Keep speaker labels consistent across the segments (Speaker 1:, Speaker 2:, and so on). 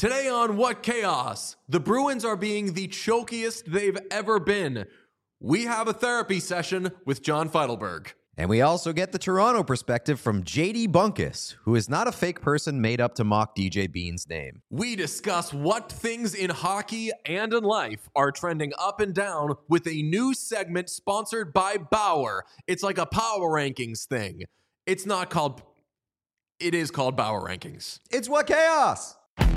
Speaker 1: Today on What Chaos, the Bruins are being the chokiest they've ever been. We have a therapy session with John Feidelberg.
Speaker 2: And we also get the Toronto perspective from JD Bunkus, who is not a fake person made up to mock DJ Bean's name.
Speaker 1: We discuss what things in hockey and in life are trending up and down with a new segment sponsored by Bauer. It's like a power rankings thing. It is called Bauer Rankings.
Speaker 2: It's What Chaos!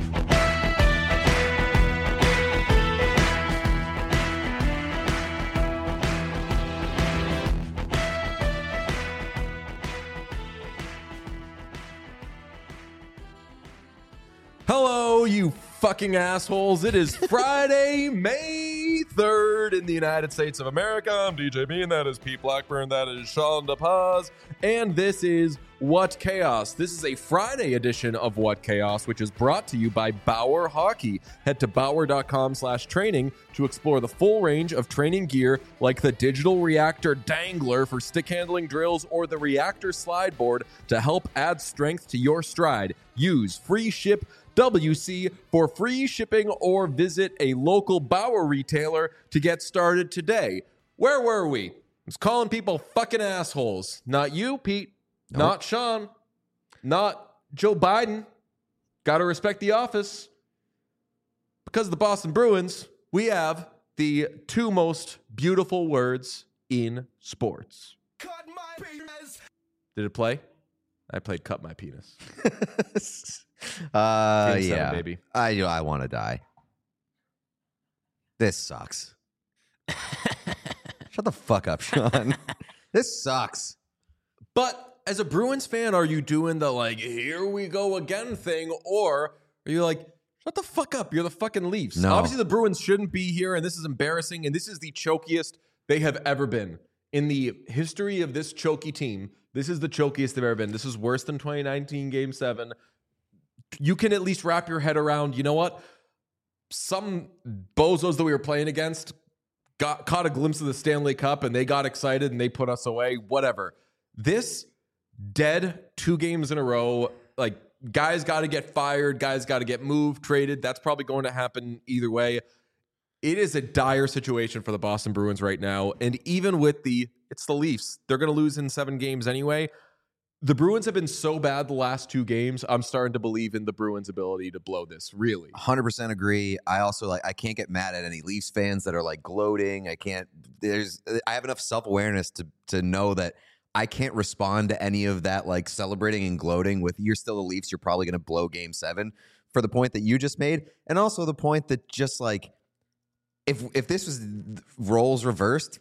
Speaker 1: Hello, you fucking assholes. It is Friday, May 3rd in the United States of America. I'm DJ Bean. That is Pete Blackburn. That is Sean DePaz. And this is What Chaos. This is a Friday edition of What Chaos, which is brought to you by Bauer Hockey. Head to bauer.com/training to explore the full range of training gear like the digital reactor dangler for stick handling drills or the reactor slide board to help add strength to your stride. Use free ship WC for free shipping or visit a local Bauer retailer to get started today. Where were we? I was calling people fucking assholes. Not you, Pete.
Speaker 2: Nope.
Speaker 1: Not Sean. Not Joe Biden. Gotta respect the office. Because of the Boston Bruins, we have the two most beautiful words in sports.
Speaker 3: Cut my penis.
Speaker 1: Did it play? I played cut my penis.
Speaker 2: Yeah,
Speaker 1: baby.
Speaker 2: I want to die. This sucks. Shut the fuck up, Sean. This sucks.
Speaker 1: But as a Bruins fan, are you doing the like, here we go again thing? Or are you like, shut the fuck up, you're the fucking Leafs?
Speaker 2: No.
Speaker 1: Obviously, the Bruins shouldn't be here, and this is embarrassing, and this is the chokiest they have ever been. In the history of this choky team, this is the chokiest they've ever been. This is worse than 2019 Game 7. You can at least wrap your head around, you know what? Some bozos that we were playing against caught a glimpse of the Stanley Cup, and they got excited, and they put us away. Whatever. This dead 2 games in a row, like, guys got to get fired, guys got to get moved, traded. That's probably going to happen either way. It is a dire situation for the Boston Bruins right now. And even with it's the Leafs. They're going to lose in 7 games anyway. The Bruins have been so bad the last 2 games. I'm starting to believe in the Bruins' ability to blow this, really.
Speaker 2: 100% agree. I also I can't get mad at any Leafs fans that are like gloating. I have enough self-awareness to know that I can't respond to any of that like celebrating and gloating with you're still the Leafs. You're probably going to blow Game 7 for the point that you just made. And also the point that just like, if this was roles reversed,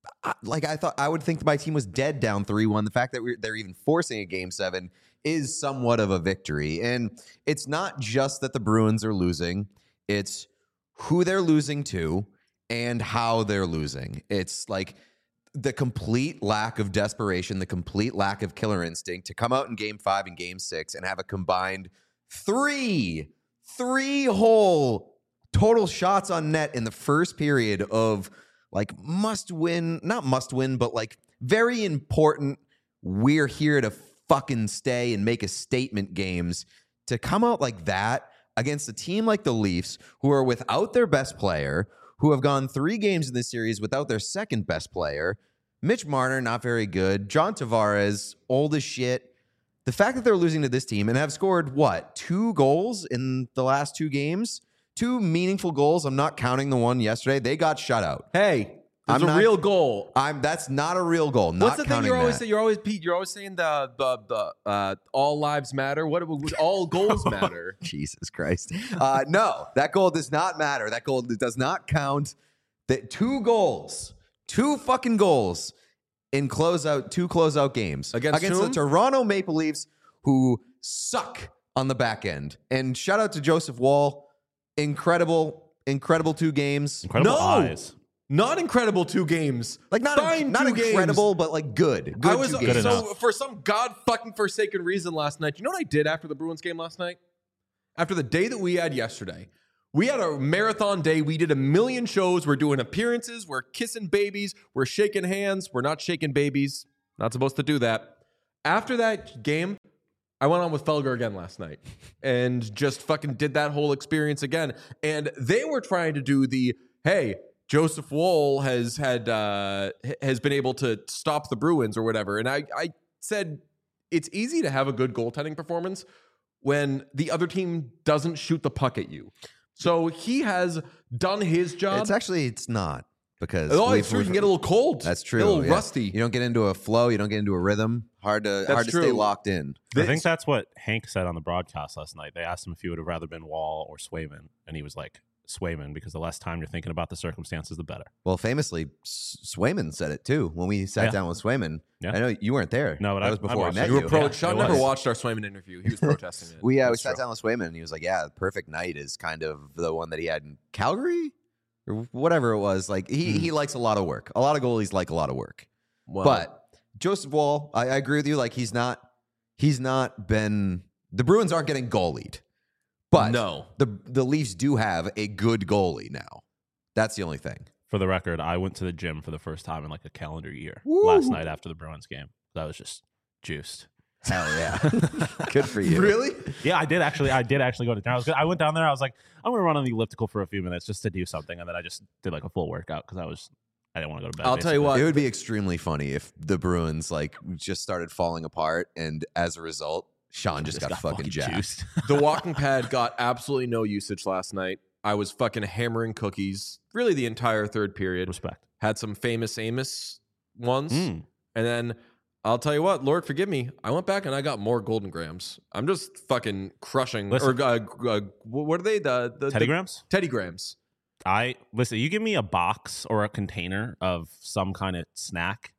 Speaker 2: I would think that my team was dead down 3-1. The fact that they're even forcing a Game 7 is somewhat of a victory. And it's not just that the Bruins are losing. It's who they're losing to and how they're losing. It's like the complete lack of desperation, the complete lack of killer instinct to come out in Game 5 and Game 6 and have a combined three whole total shots on net in the first period of like not must win, but like very important. We're here to fucking stay and make a statement games to come out like that against a team like the Leafs, who are without their best player, who have gone 3 games in this series without their second best player. Mitch Marner, not very good. John Tavares, old as shit. The fact that they're losing to this team and have scored, 2 goals in the last 2 games? 2 meaningful goals. I'm not counting the one yesterday. They got shut out.
Speaker 1: Hey, there's a real goal.
Speaker 2: That's not a real goal.
Speaker 1: What's the thing you're always saying? Pete, you're always saying the all lives matter. What all goals matter?
Speaker 2: Jesus Christ. No, that goal does not matter. That goal does not count. That 2 fucking goals in 2 closeout games against the Toronto Maple Leafs, who suck on the back end. And shout out to Joseph Woll. Incredible 2 games.
Speaker 4: Incredible eyes.
Speaker 1: Not incredible 2 games.
Speaker 2: Like not incredible, but like good.
Speaker 1: I was
Speaker 2: 2 games.
Speaker 1: so for some god fucking forsaken reason last night. You know what I did after the Bruins game last night? After the day that we had yesterday, we had a marathon day. We did a million shows. We're doing appearances. We're kissing babies. We're shaking hands. We're not shaking babies. Not supposed to do that. After that game, I went on with Felger again last night and just fucking did that whole experience again. And they were trying to do the, hey, Joseph Woll has been able to stop the Bruins or whatever. And I said, it's easy to have a good goaltending performance when the other team doesn't shoot the puck at you. So he has done his job.
Speaker 2: It's not. Because
Speaker 1: it's true. You can get a little cold.
Speaker 2: That's true.
Speaker 1: A little rusty.
Speaker 2: You don't get into a flow. You don't get into a rhythm. Hard to stay locked in.
Speaker 3: I think that's what Hank said on the broadcast last night. They asked him if he would have rather been Wall or Swayman, and he was like, Swayman, because the less time you're thinking about the circumstances, the better.
Speaker 2: Well, famously, Swayman said it too when we sat down with Swayman. Yeah. I know you weren't there.
Speaker 3: No, but
Speaker 2: that was before I met
Speaker 1: you.
Speaker 2: You.
Speaker 1: Sean never watched our Swayman interview. He was protesting it.
Speaker 2: we sat down with Swayman, and he was like, "Yeah, the perfect night is kind of the one that he had in Calgary." Or whatever it was, like he likes a lot of work. A lot of goalies like a lot of work. Well, but Joseph Woll, I agree with you. Like he's not been. The Bruins aren't getting goalied, but
Speaker 1: no,
Speaker 2: the Leafs do have a good goalie now. That's the only thing.
Speaker 3: For the record, I went to the gym for the first time in like a calendar year last night after the Bruins game. That was just juiced.
Speaker 2: Hell yeah. Good for you.
Speaker 1: Really?
Speaker 3: Yeah, I did actually go to town. I went down there. I was like, I'm going to run on the elliptical for a few minutes just to do something. And then I just did like a full workout because I didn't want to go to bed.
Speaker 1: I'll tell you what.
Speaker 2: It would be extremely funny if the Bruins like just started falling apart. And as a result, Sean just got fucking jacked.
Speaker 3: Juiced.
Speaker 1: The walking pad got absolutely no usage last night. I was fucking hammering cookies really the entire third period.
Speaker 3: Respect.
Speaker 1: Had some famous Amos ones. And then I'll tell you what, Lord forgive me, I went back and I got more Golden Grams. I'm just fucking crushing.
Speaker 3: Listen,
Speaker 1: or what are they? The
Speaker 3: Teddy Grams?
Speaker 1: Teddy Grams.
Speaker 3: Listen, you give me a box or a container of some kind of snack,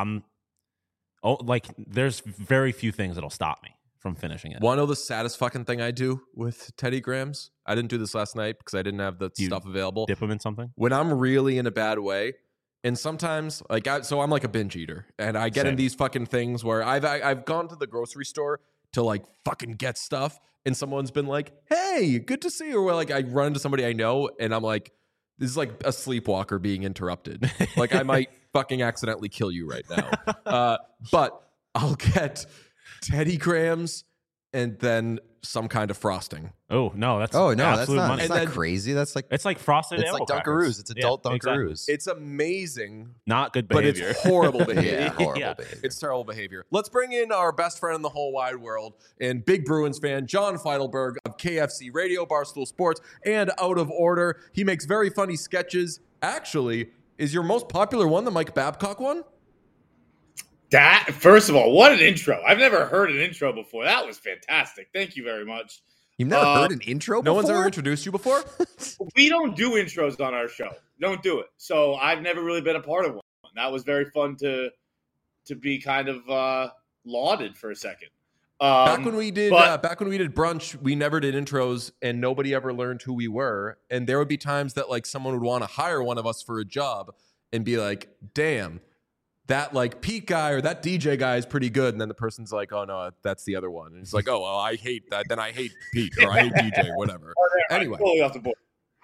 Speaker 3: there's very few things that'll stop me from finishing it.
Speaker 1: Want to know the saddest fucking thing I do with Teddy Grams? I didn't do this last night because I didn't have the stuff available.
Speaker 3: Dip them in something?
Speaker 1: When I'm really in a bad way, and sometimes, so I'm like a binge eater, and I get in these fucking things where I've gone to the grocery store to like fucking get stuff, and someone's been like, "Hey, good to see you." Or like I run into somebody I know, and I'm like, "This is like a sleepwalker being interrupted. Like I might fucking accidentally kill you right now." But I'll get Teddy Grams and then some kind of frosting.
Speaker 3: Oh no, that's
Speaker 2: that's
Speaker 3: absolute
Speaker 2: not,
Speaker 3: money.
Speaker 2: it's not crazy. That's like
Speaker 3: it's like frosted.
Speaker 2: It's like Dunkaroos. It's adult Dunkaroos.
Speaker 3: Exactly.
Speaker 1: It's amazing,
Speaker 3: not good behavior,
Speaker 1: but it's horrible behavior.
Speaker 2: Yeah, horrible behavior.
Speaker 1: It's terrible behavior. Let's bring in our best friend in the whole wide world and big Bruins fan, John Feidelberg of KFC Radio, Barstool Sports, and Out of Order. He makes very funny sketches. Actually, is your most popular one the Mike Babcock one?
Speaker 4: That, first of all, what an intro. I've never heard an intro before. That was fantastic. Thank you very much.
Speaker 2: You've never heard an intro before?
Speaker 1: No one's ever introduced you before?
Speaker 4: We don't do intros on our show. Don't do it. So I've never really been a part of one. That was very fun to be kind of lauded for a second.
Speaker 1: Back when we did brunch, we never did intros, and nobody ever learned who we were. And there would be times that like someone would want to hire one of us for a job and be like, "Damn, that like Pete guy or that DJ guy is pretty good." And then the person's like, "Oh no, that's the other one." And it's like, "Oh well, I hate that. Then I hate Pete or I hate DJ, whatever." Anyway,
Speaker 4: totally off the board.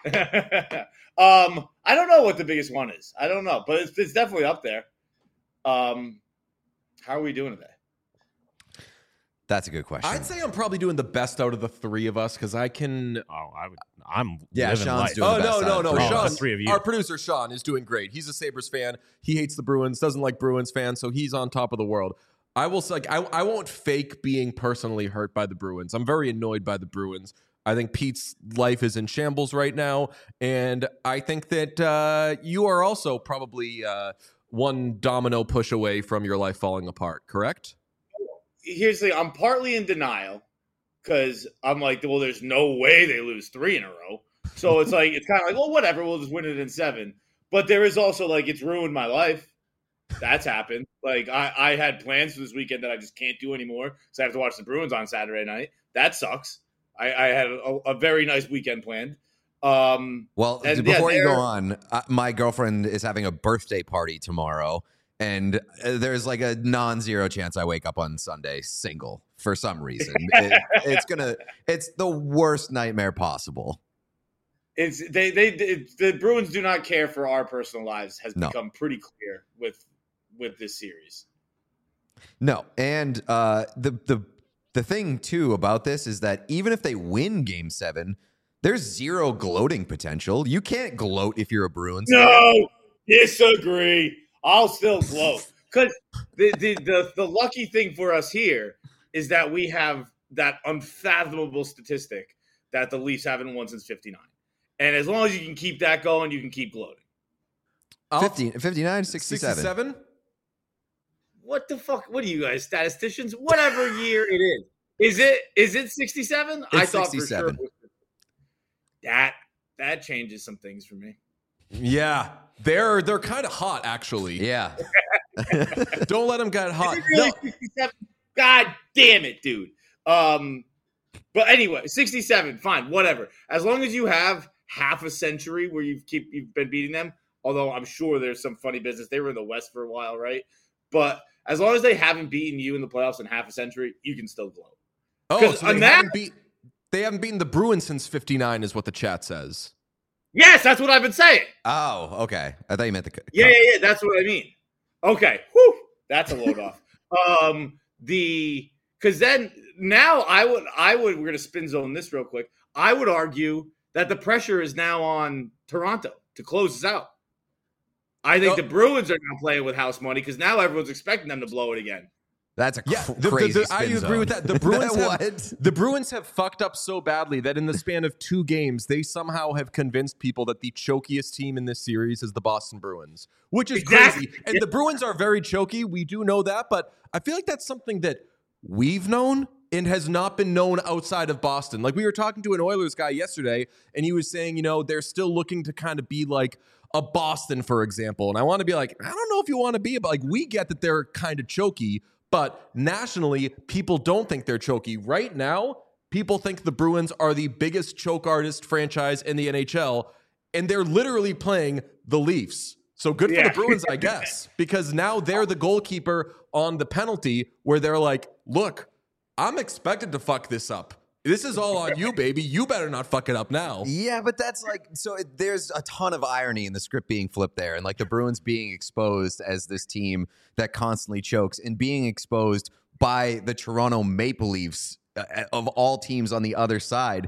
Speaker 4: I don't know what the biggest one is. I don't know, but it's definitely up there. How are we doing today?
Speaker 2: That's a good question.
Speaker 1: I'd say I'm probably doing the best out of the three of us because I can.
Speaker 3: I'm
Speaker 2: yeah,
Speaker 3: living
Speaker 2: Sean's
Speaker 3: life.
Speaker 2: doing the best.
Speaker 1: No. Sean,
Speaker 3: the three of you.
Speaker 1: Our producer Sean is doing great. He's a Sabres fan. He hates the Bruins. Doesn't like Bruins fans. So he's on top of the world. I will say, I won't fake being personally hurt by the Bruins. I'm very annoyed by the Bruins. I think Pete's life is in shambles right now, and I think that you are also probably one domino push away from your life falling apart. Correct?
Speaker 4: Here's the thing. I'm partly in denial because I'm like, well, there's no way they lose 3 in a row. So it's like, it's kind of like, well, whatever. We'll just win it in 7. But there is also like, it's ruined my life. That's happened. Like I had plans for this weekend that I just can't do anymore because I have to watch the Bruins on Saturday night. That sucks. I had a very nice weekend planned.
Speaker 2: Well, before you go on, my girlfriend is having a birthday party tomorrow. And there's like a non-zero chance I wake up on Sunday single for some reason. It's the worst nightmare possible.
Speaker 4: The Bruins do not care for our personal lives has become pretty clear with this series.
Speaker 2: No, and the The thing, too, about this is that even if they win Game 7, there's zero gloating potential. You can't gloat if you're a Bruins fan.
Speaker 4: No, disagree. I'll still gloat. Because the lucky thing for us here is that we have that unfathomable statistic that the Leafs haven't won since 59. And as long as you can keep that going, you can keep gloating.
Speaker 2: 59, 67.
Speaker 1: 67?
Speaker 4: What the fuck? What are you guys, statisticians? Whatever year it is. Is it 67? I thought
Speaker 2: 67.
Speaker 4: for sure. That changes some things for me.
Speaker 1: Yeah. They're kind of hot, actually.
Speaker 2: Yeah.
Speaker 1: Don't let them get hot.
Speaker 4: Is it really 67? God damn it, dude. But anyway, 67, fine, whatever. As long as you have half a century where you've been beating them, although I'm sure there's some funny business. They were in the West for a while, right? But as long as they haven't beaten you in the playoffs in half a century, you can still gloat.
Speaker 1: Oh, so they haven't beaten the Bruins since 59 is what the chat says.
Speaker 4: Yes, that's what I've been saying.
Speaker 2: Oh, okay. I thought you meant the
Speaker 4: Yeah, that's what I mean. Okay, whew, that's a load off. Because then now I would we're gonna spin zone this real quick. I would argue that the pressure is now on Toronto to close us out. I think the Bruins are now playing with house money because now everyone's expecting them to blow it again.
Speaker 2: That's a
Speaker 1: I
Speaker 2: crazy spin
Speaker 1: agree
Speaker 2: zone.
Speaker 1: with that. The Bruins have fucked up so badly that in the span of 2 games, they somehow have convinced people that the chokiest team in this series is the Boston Bruins, which is crazy. And the Bruins are very choky. We do know that, but I feel like that's something that we've known and has not been known outside of Boston. Like we were talking to an Oilers guy yesterday, and he was saying, they're still looking to kind of be like a Boston, for example. And I want to be like, I don't know if you want to be, but like we get that they're kind of choky. But nationally, people don't think they're choky. Right now, people think the Bruins are the biggest choke artist franchise in the NHL, and they're literally playing the Leafs. So good for the Bruins, I guess, because now they're the goalkeeper on the penalty where they're like, look, I'm expected to fuck this up. This is all on you, baby. You better not fuck it up now.
Speaker 2: Yeah, but that's there's a ton of irony in the script being flipped there, and like the Bruins being exposed as this team that constantly chokes and being exposed by the Toronto Maple Leafs of all teams on the other side.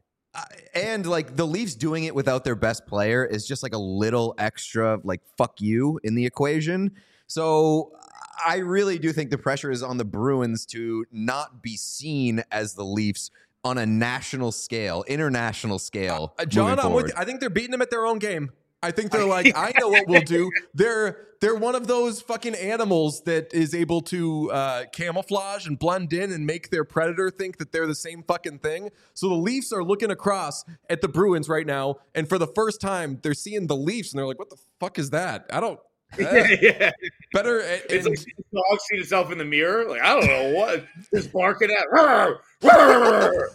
Speaker 2: And like the Leafs doing it without their best player is just like a little extra like fuck you in the equation. So I really do think the pressure is on the Bruins to not be seen as the Leafs on a national scale, international scale.
Speaker 1: John, I'm with you. I think they're beating them at their own game. I think they're like, I know what we'll do. They're one of those fucking animals that is able to camouflage and blend in and make their predator think that they're the same fucking thing. So the Leafs are looking across at the Bruins right now, and for the first time, they're seeing the Leafs, and they're like, what the fuck is that? I don't... Better.
Speaker 4: It's like the dog seen itself in the mirror. Like, I don't know what. Just barking at. Rawr, rawr.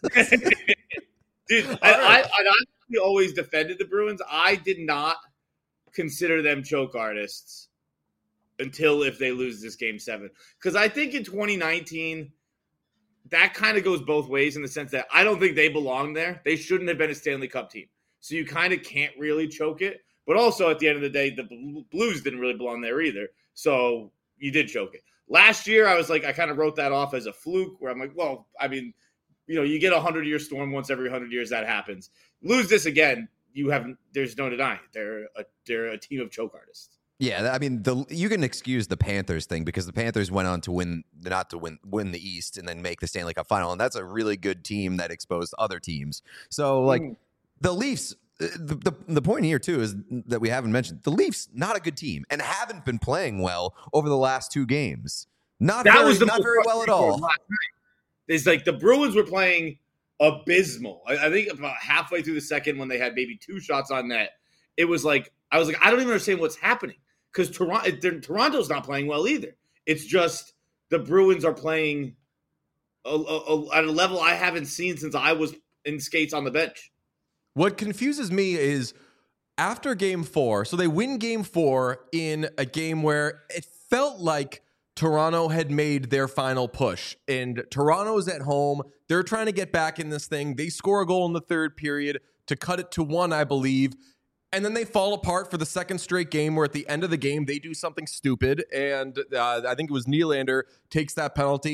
Speaker 4: Dude, I always defended the Bruins. I did not consider them choke artists until if they lose this Game 7. Because I think in 2019, that kind of goes both ways in the sense that I don't think they belong there. They shouldn't have been a Stanley Cup team. So you kind of can't really choke it. But also, at the end of the day, the Blues didn't really belong there either. So you did choke it. Last year, I kind of wrote that off as a fluke where I'm like, well, I mean, you get a 100-year storm once every 100 years. That happens. Lose this again, there's no denying it. They're a team of choke artists.
Speaker 2: Yeah, I mean, you can excuse the Panthers thing because the Panthers went on to win the East and then make the Stanley Cup final. And that's a really good team that exposed other teams. So, like, the Leafs... The point here, too, is that we haven't mentioned the Leafs, not a good team and haven't been playing well over the last 2 games. Not very well at all.
Speaker 4: It's like the Bruins were playing abysmal. I think about halfway through the second when they had maybe 2 shots on net, it was like, I was like, I don't even understand what's happening because Toronto's not playing well either. It's just the Bruins are playing at a level I haven't seen since I was in skates on the bench.
Speaker 1: What confuses me is after Game 4, so they win Game 4 in a game where it felt like Toronto had made their final push. And Toronto's at home. They're trying to get back in this thing. They score a goal in the 3rd period to cut it to 1, I believe. And then they fall apart for the 2nd straight game where at the end of the game, they do something stupid. And I think it was Nylander takes that penalty.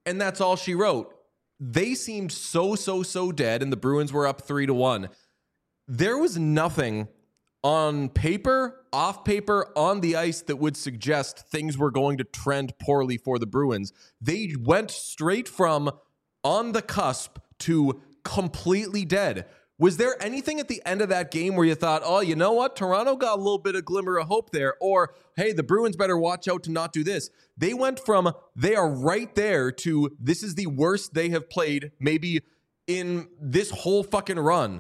Speaker 1: and that's all she wrote. They seemed so dead, and the Bruins were up 3-1. There was nothing on paper, off paper, on the ice that would suggest things were going to trend poorly for the Bruins. They went straight from on the cusp to completely dead. Was there anything at the end of that game where you thought, oh, you know what? Toronto got a little bit of glimmer of hope there. Or, hey, the Bruins better watch out to not do this. They went from they are right there to this is the worst they have played maybe in this whole fucking run.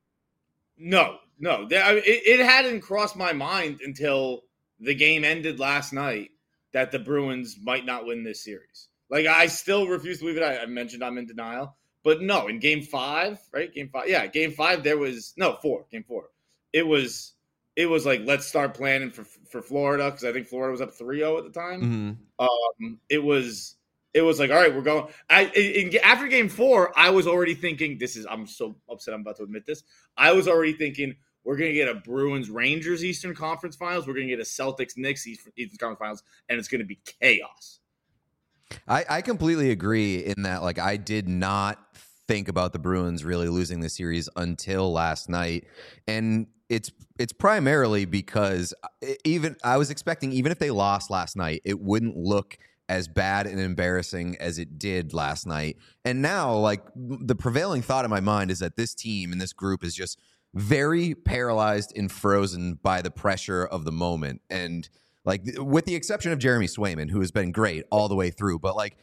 Speaker 4: No. It hadn't crossed my mind until the game ended last night that the Bruins might not win this series. Like, I still refuse to believe it. I mentioned I'm in denial. But no, in game 5, right? Game 5. Yeah, game 5, there was no 4. Game 4. It was like, let's start planning for Florida, because I think Florida was up 3-0 at the time.
Speaker 1: Mm-hmm.
Speaker 4: It was like, all right, we're going. After game 4, I was already thinking, I'm so upset I'm about to admit this. I was already thinking we're going to get a Bruins-Rangers Eastern Conference Finals. We're going to get a Celtics-Knicks Eastern Conference Finals, and it's going to be chaos.
Speaker 2: I completely agree in that, like, I did not think about the Bruins really losing the series until last night. And it's primarily because I was expecting, even if they lost last night, it wouldn't look as bad and embarrassing as it did last night. And now, like, the prevailing thought in my mind is that this team and this group is just very paralyzed and frozen by the pressure of the moment. And like, with the exception of Jeremy Swayman, who has been great all the way through. But like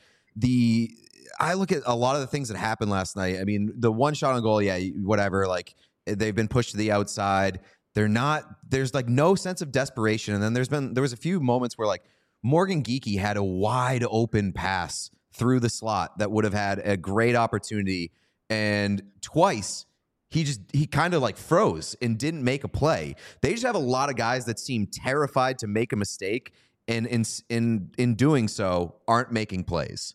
Speaker 2: I look at a lot of the things that happened last night. I mean, the one shot on goal, yeah, whatever. Like, they've been pushed to the outside. There's like no sense of desperation. And then there was a few moments where like Morgan Geekie had a wide open pass through the slot that would have had a great opportunity. And twice he kind of like froze and didn't make a play. They just have a lot of guys that seem terrified to make a mistake, and in doing so aren't making plays.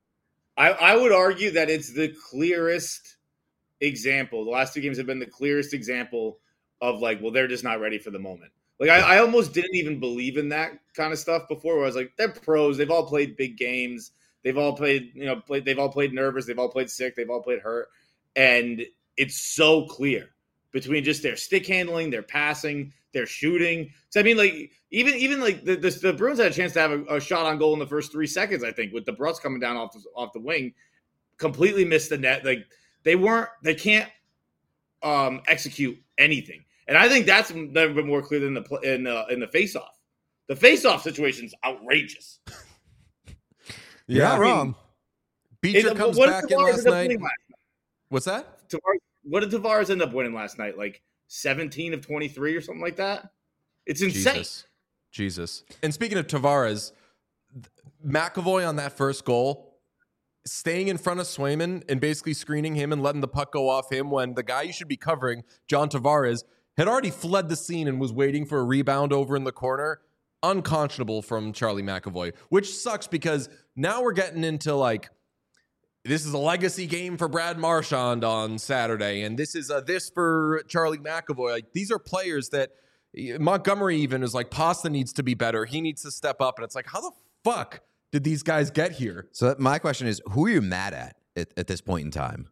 Speaker 4: I would argue that it's the clearest example. The last 2 games have been the clearest example of like, well, they're just not ready for the moment. Like, I almost didn't even believe in that kind of stuff before, where I was like, they're pros. They've all played big games. They've all played, they've all played nervous. They've all played sick. They've all played hurt. And it's so clear between just their stick handling, their passing, their shooting. So I mean, like, even like the Bruins had a chance to have a shot on goal in the first 3 seconds, I think, with the Brutts coming down off the wing, completely missed the net. Like, they can't execute anything. And I think that's never been more clear than in the face-off. The face-off situation is outrageous.
Speaker 2: You're not wrong.
Speaker 1: Beecher comes back in last night. What's that?
Speaker 4: What did Tavares end up winning last night? Like 17 of 23 or something like that? It's insane.
Speaker 1: Jesus. And speaking of Tavares, McAvoy on that first goal, staying in front of Swayman and basically screening him and letting the puck go off him when the guy you should be covering, John Tavares, had already fled the scene and was waiting for a rebound over in the corner. Unconscionable from Charlie McAvoy, which sucks because now we're getting into like, this is a legacy game for Brad Marchand on Saturday, and this is this for Charlie McAvoy. Like, these are players that Montgomery even is like, Pasta needs to be better. He needs to step up. And it's like, how the fuck did these guys get here?
Speaker 2: So my question is, who are you mad at this point in time?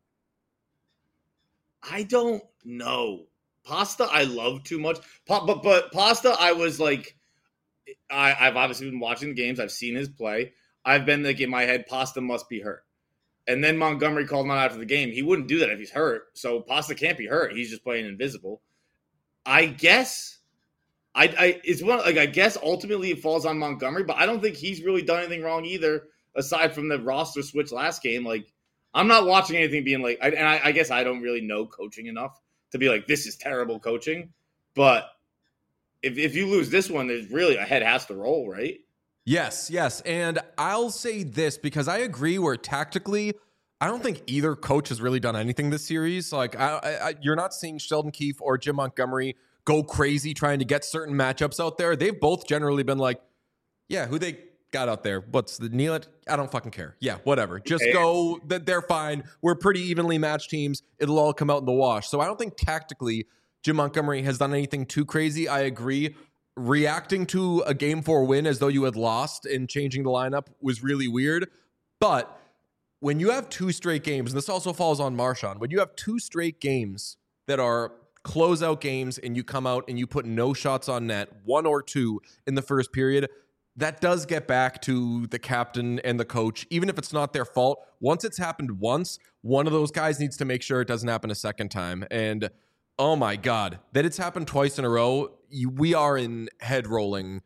Speaker 4: I don't know. Pasta I love too much. But Pasta, I was like, I've obviously been watching the games. I've seen his play. I've been like, in my head, Pasta must be hurt. And then Montgomery called him out after the game. He wouldn't do that if he's hurt. So Pasta can't be hurt. He's just playing invisible. I guess it's one, like, I guess ultimately it falls on Montgomery, but I don't think he's really done anything wrong either, aside from the roster switch last game. Like, I'm not watching anything being like, I guess I don't really know coaching enough to be like, this is terrible coaching. But if you lose this one, there's really a head has to roll, right?
Speaker 1: Yes. And I'll say this because I agree where tactically, I don't think either coach has really done anything this series. Like, you're not seeing Sheldon Keefe or Jim Montgomery go crazy trying to get certain matchups out there. They've both generally been like, yeah, who they got out there? What's the Nealon? I don't fucking care. Yeah, whatever. Just go. They're fine. We're pretty evenly matched teams. It'll all come out in the wash. So I don't think tactically Jim Montgomery has done anything too crazy. I agree. Reacting to a Game 4 win as though you had lost and changing the lineup was really weird. But when you have 2 straight games, and this also falls on Marchand, when you have 2 straight games that are closeout games and you come out and you put no shots on net, 1 or 2 in the first period, that does get back to the captain and the coach, even if it's not their fault. Once it's happened once, one of those guys needs to make sure it doesn't happen a second time. And oh my God, that it's happened twice in a row. We are in head rolling.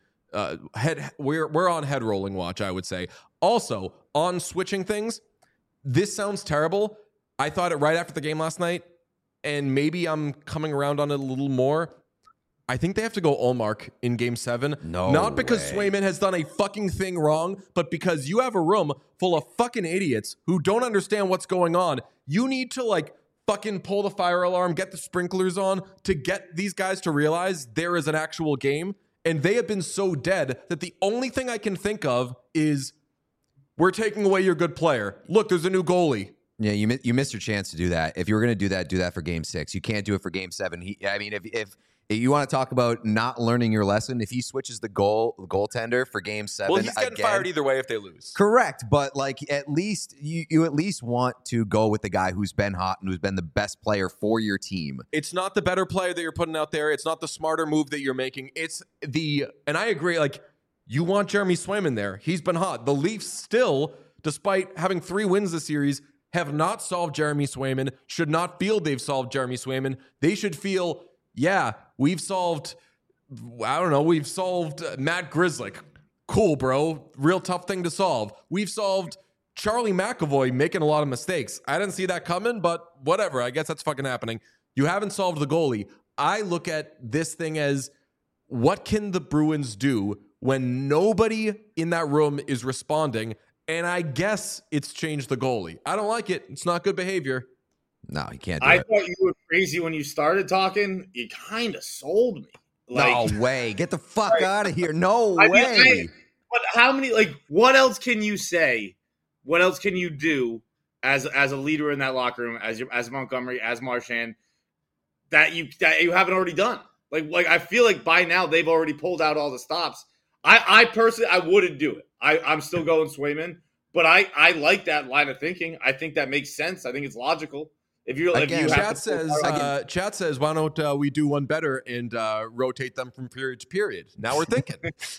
Speaker 1: We're on head rolling watch, I would say. Also, on switching things, this sounds terrible. I thought it right after the game last night, and maybe I'm coming around on it a little more. I think they have to go Ullmark in Game 7.
Speaker 2: No
Speaker 1: Not because
Speaker 2: way.
Speaker 1: Swayman has done a fucking thing wrong, but because you have a room full of fucking idiots who don't understand what's going on. You need to, like, fucking pull the fire alarm, get the sprinklers on to get these guys to realize there is an actual game. And they have been so dead that the only thing I can think of is we're taking away your good player. Look, there's a new goalie.
Speaker 2: Yeah, you missed your chance to do that. If you were going to do that for Game 6. You can't do it for Game 7. If you want to talk about not learning your lesson, if he switches the goaltender for Game 7,
Speaker 1: Well, he's getting fired either way if they lose.
Speaker 2: Correct, but like at least you at least want to go with the guy who's been hot and who's been the best player for your team.
Speaker 1: It's not the better player that you're putting out there. It's not the smarter move that you're making. And I agree, like, you want Jeremy Swayman there. He's been hot. The Leafs still, despite having 3 wins this series, have not solved Jeremy Swayman, should not feel they've solved Jeremy Swayman. They should feel, yeah, we've solved Matt Grzelcyk. Cool, bro. Real tough thing to solve. We've solved Charlie McAvoy making a lot of mistakes. I didn't see that coming, but whatever. I guess that's fucking happening. You haven't solved the goalie. I look at this thing as, what can the Bruins do when nobody in that room is responding? And I guess it's changed the goalie. I don't like it. It's not good behavior.
Speaker 2: No, you can't do
Speaker 4: I
Speaker 2: it.
Speaker 4: thought you were crazy when you started talking. You kind of sold me. Like,
Speaker 2: No way. Get the fuck out of here. No
Speaker 4: I
Speaker 2: way.
Speaker 4: mean, but how many? Like, what else can you say? What else can you do as a leader in that locker room, as Montgomery, as Marchand, that you haven't already done? Like I feel like by now they've already pulled out all the stops. I personally, I wouldn't do it. I'm still going Swayman, but I like that line of thinking. I think that makes sense. I think it's logical. If you
Speaker 1: Chat says, why don't we do one better and rotate them from period to period? Now we're thinking.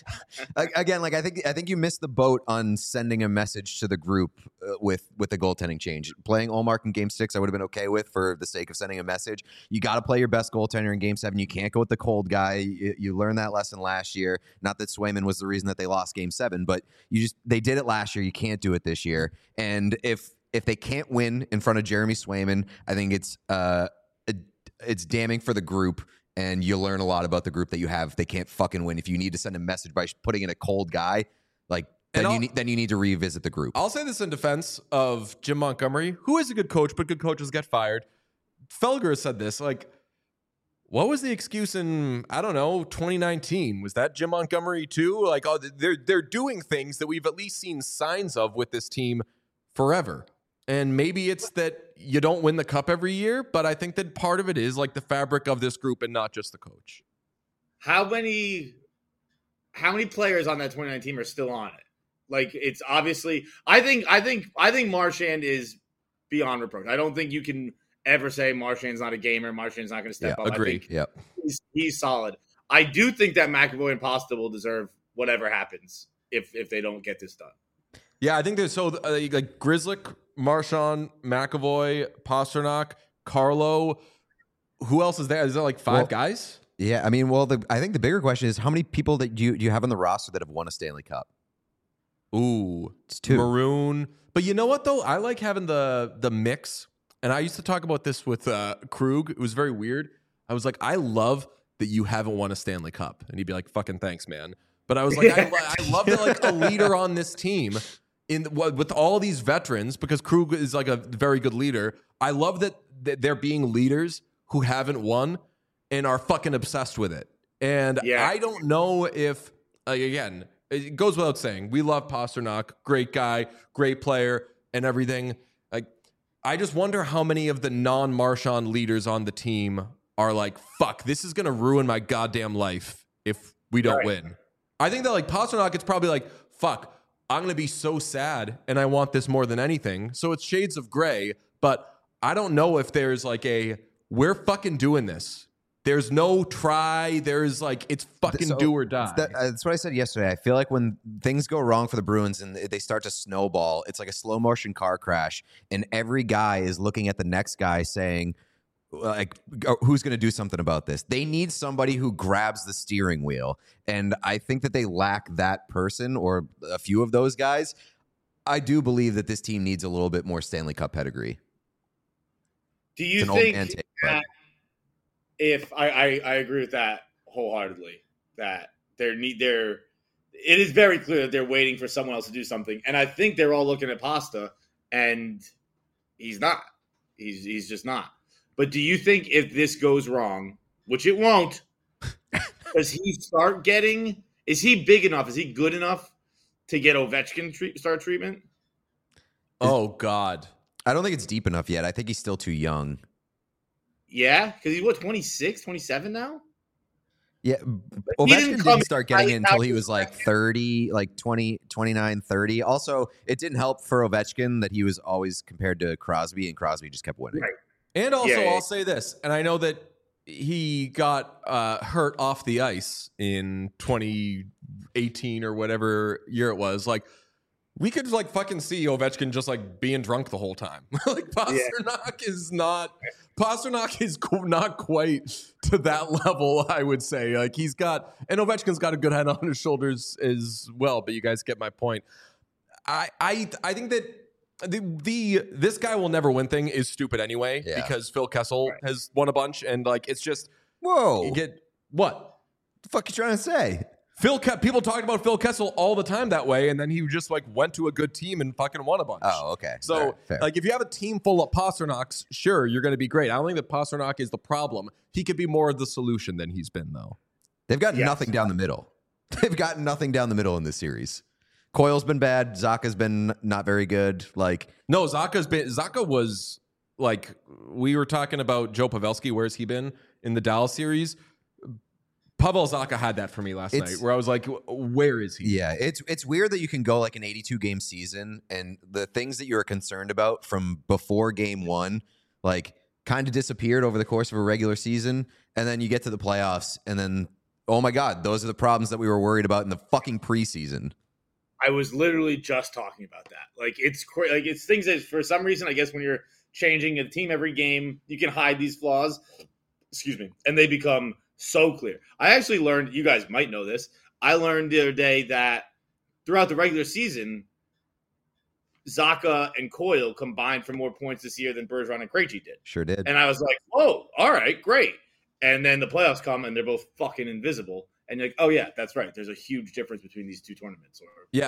Speaker 2: Again, like I think you missed the boat on sending a message to the group with the goaltending change. Playing Ullmark in Game 6, I would have been okay with for the sake of sending a message. You got to play your best goaltender in Game 7. You can't go with the cold guy. You learned that lesson last year. Not that Swayman was the reason that they lost Game 7, but they did it last year. You can't do it this year. And if they can't win in front of Jeremy Swayman, I think it's damning for the group, and you learn a lot about the group that you have. They can't fucking win. If you need to send a message by putting in a cold guy, like then you need to revisit the group.
Speaker 1: I'll say this in defense of Jim Montgomery, who is a good coach, but good coaches get fired. Felger said this, like, what was the excuse in, I don't know, 2019? Was that Jim Montgomery too? Like, oh, they're doing things that we've at least seen signs of with this team forever. And maybe it's that you don't win the cup every year, but I think that part of it is like the fabric of this group and not just the coach.
Speaker 4: How many players on that 2019 team are still on it? Like, it's obviously, I think Marchand is beyond reproach. I don't think you can ever say Marchand's not a gamer. Marchand's not going to step up.
Speaker 1: Agree.
Speaker 4: I think he's solid. I do think that McAvoy and Pasta will deserve whatever happens if they don't get this done.
Speaker 1: Yeah, I think there's like Grzelcyk, Marchand, McAvoy, Pasternak, Carlo. Who else is there? Is there like 5 guys?
Speaker 2: Yeah, I mean, I think the bigger question is how many people that do you have on the roster that have won a Stanley Cup?
Speaker 1: Ooh,
Speaker 2: it's 2.
Speaker 1: Maroon. But you know what though? I like having the mix. And I used to talk about this with Krug. It was very weird. I was like, I love that you haven't won a Stanley Cup, and he'd be like, "Fucking thanks, man." But I was like, I love that like a leader on this team with all these veterans, because Krug is like a very good leader. I love that they're being leaders who haven't won and are fucking obsessed with it. And I don't know if, again, it goes without saying, we love Pasternak, great guy, great player, and everything. Like, I just wonder how many of the non-Marchand leaders on the team are like, fuck, this is going to ruin my goddamn life if we don't win. I think that like Pasternak, it's probably like, fuck, I'm going to be so sad and I want this more than anything. So it's shades of gray, but I don't know if there's like we're fucking doing this. There's no try. There's like, it's fucking do or die.
Speaker 2: That's what I said yesterday. I feel like when things go wrong for the Bruins and they start to snowball, it's like a slow motion car crash, and every guy is looking at the next guy saying, like, who's going to do something about this? They need somebody who grabs the steering wheel. And I think that they lack that person or a few of those guys. I do believe that this team needs a little bit more Stanley Cup pedigree.
Speaker 4: Do you think that if I agree with that wholeheartedly, that it is very clear that they're waiting for someone else to do something. And I think they're all looking at Pasta, and he's not. He's just not. But do you think if this goes wrong, which it won't, does he start getting? Is he big enough? Is he good enough to get Ovechkin start treatment?
Speaker 1: Oh God,
Speaker 2: I don't think it's deep enough yet. I think he's still too young.
Speaker 4: Yeah, because he's 26, 27 now.
Speaker 2: Yeah, Ovechkin didn't start getting it until he was like 30, like 20, 29, 30. Also, it didn't help for Ovechkin that he was always compared to Crosby, and Crosby just kept winning.
Speaker 4: Right.
Speaker 1: And also, I'll say this, and I know that he got hurt off the ice in 2018 or whatever year it was. Like, we could like fucking see Ovechkin just like being drunk the whole time. Like Pastrnak is not quite to that level, I would say. Like and Ovechkin's got a good head on his shoulders as well. But you guys get my point. I think that this guy will never win thing is stupid anyway because Phil Kessel has won a bunch, and like it's just
Speaker 2: whoa.
Speaker 1: You get what
Speaker 2: the fuck you trying to say?
Speaker 1: People talked about Phil Kessel all the time that way, and then he just like went to a good team and fucking won a bunch.
Speaker 2: Oh, okay.
Speaker 1: So like if you have a team full of Pasternaks, sure, you're going to be great. I don't think that Pastrnak is the problem. He could be more of the solution than he's been, though.
Speaker 2: They've got nothing down the middle. They've got nothing down the middle in this series. Coyle's been bad. Zacha's been not very good. Like
Speaker 1: no, Zacha was like we were talking about Joe Pavelski. Where's he been in the Dallas series? Pavel Zacha had that for me last night, where I was like, where is he?
Speaker 2: Yeah, it's weird that you can go like an 82-game season, and the things that you were concerned about from before game one, like, kind of disappeared over the course of a regular season, and then you get to the playoffs, and then, oh my God, those are the problems that we were worried about in the fucking preseason.
Speaker 4: I was literally just talking about that. Like, it's things that, for some reason, I guess when you're changing a team every game, you can hide these flaws, and they become so clear. I actually learned, you guys might know this, I learned the other day that throughout the regular season, Zacha and Coyle combined for more points this year than Bergeron and Krejci did.
Speaker 2: Sure did.
Speaker 4: And I was like, oh, all right, great. And then the playoffs come and they're both fucking invisible. And you're like, oh yeah, that's right. There's a huge difference between these two tournaments.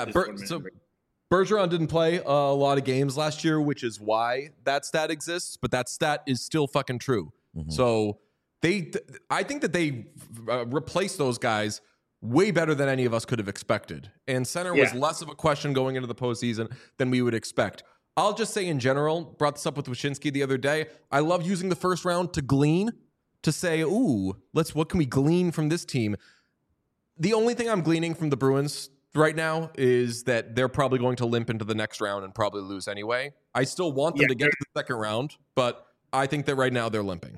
Speaker 1: Bergeron didn't play a lot of games last year, which is why that stat exists, but that stat is still fucking true. Mm-hmm. So I think that they replaced those guys way better than any of us could have expected. And center was less of a question going into the postseason than we would expect. I'll just say in general, brought this up with Wyshynski the other day, I love using the first round to glean, to say, ooh, what can we glean from this team? The only thing I'm gleaning from the Bruins right now is that they're probably going to limp into the next round and probably lose anyway. I still want them to get to the second round, but I think that right now they're limping.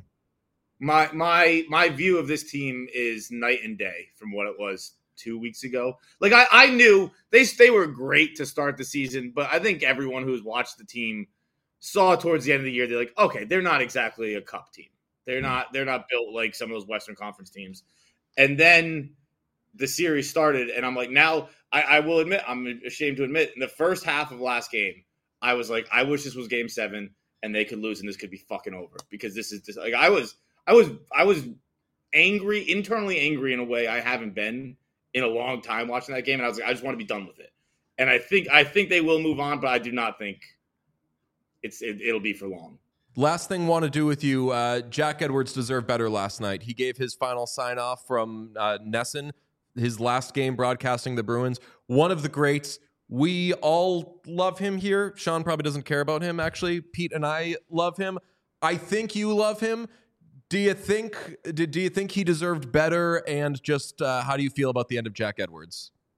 Speaker 4: My view of this team is night and day from what it was 2 weeks ago. Like I knew they were great to start the season, but I think everyone who's watched the team saw towards the end of the year, they're like, okay, they're not exactly a cup team. They're not built like some of those Western Conference teams. And then the series started, and I'm like, now I will admit, I'm ashamed to admit, in the first half of last game, I was like, I wish this was game 7 and they could lose and this could be fucking over, because this is just like I was angry, internally angry in a way I haven't been in a long time watching that game, and I was like, I just want to be done with it. And I think they will move on, but I do not think it'll be for long.
Speaker 1: Last thing want to do with you, Jack Edwards deserved better last night. He gave his final sign-off from Nesson, his last game broadcasting the Bruins. One of the greats. We all love him here. Sean probably doesn't care about him, actually. Pete and I love him. I think you love him. Do you think he deserved better? And just how do you feel about the end of Jack Edwards?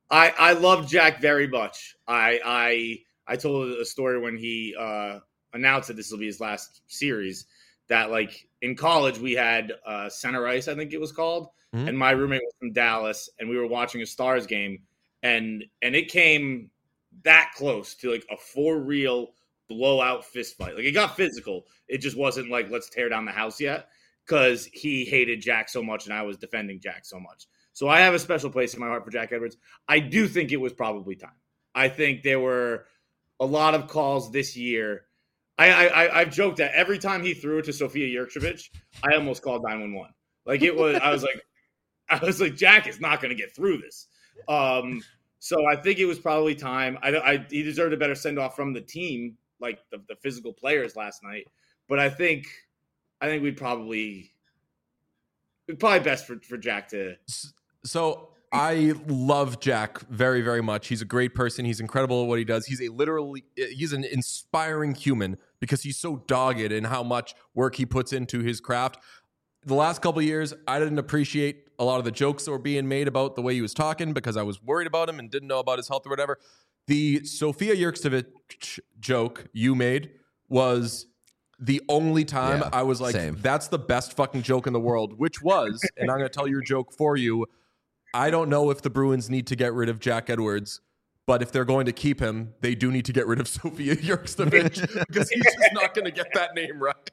Speaker 4: I love Jack very much. I told a story when he announced that this will be his last series, that like in college we had center ice, I think it was called, and my roommate was from Dallas, and we were watching a Stars game, and it came that close to like a for real blowout fist fight. Like it got physical. It just wasn't like let's tear down the house yet, because he hated Jack so much and I was defending Jack so much. So I have a special place in my heart for Jack Edwards. I do think it was probably time. I think there were a lot of calls this year. I've joked that every time he threw it to Sofia Jurcevic, I almost called 911. Like it was, I was like, Jack is not going to get through this. So I think it was probably time. He deserved a better send off from the team, like the physical players last night. But I think we'd probably best for Jack to.
Speaker 1: So I love Jack very, very much. He's a great person. He's incredible at what he does. He's an inspiring human because he's so dogged in how much work he puts into his craft. The last couple of years, I didn't appreciate a lot of the jokes that were being made about the way he was talking because I was worried about him and didn't know about his health or whatever. The Sofia Jurcevic joke you made was the only time I was like, that's the best fucking joke in the world, which was, and I'm going to tell your joke for you, I don't know if the Bruins need to get rid of Jack Edwards, but if they're going to keep him, they do need to get rid of Sofia Jurcevic because he's just not going to get that name right.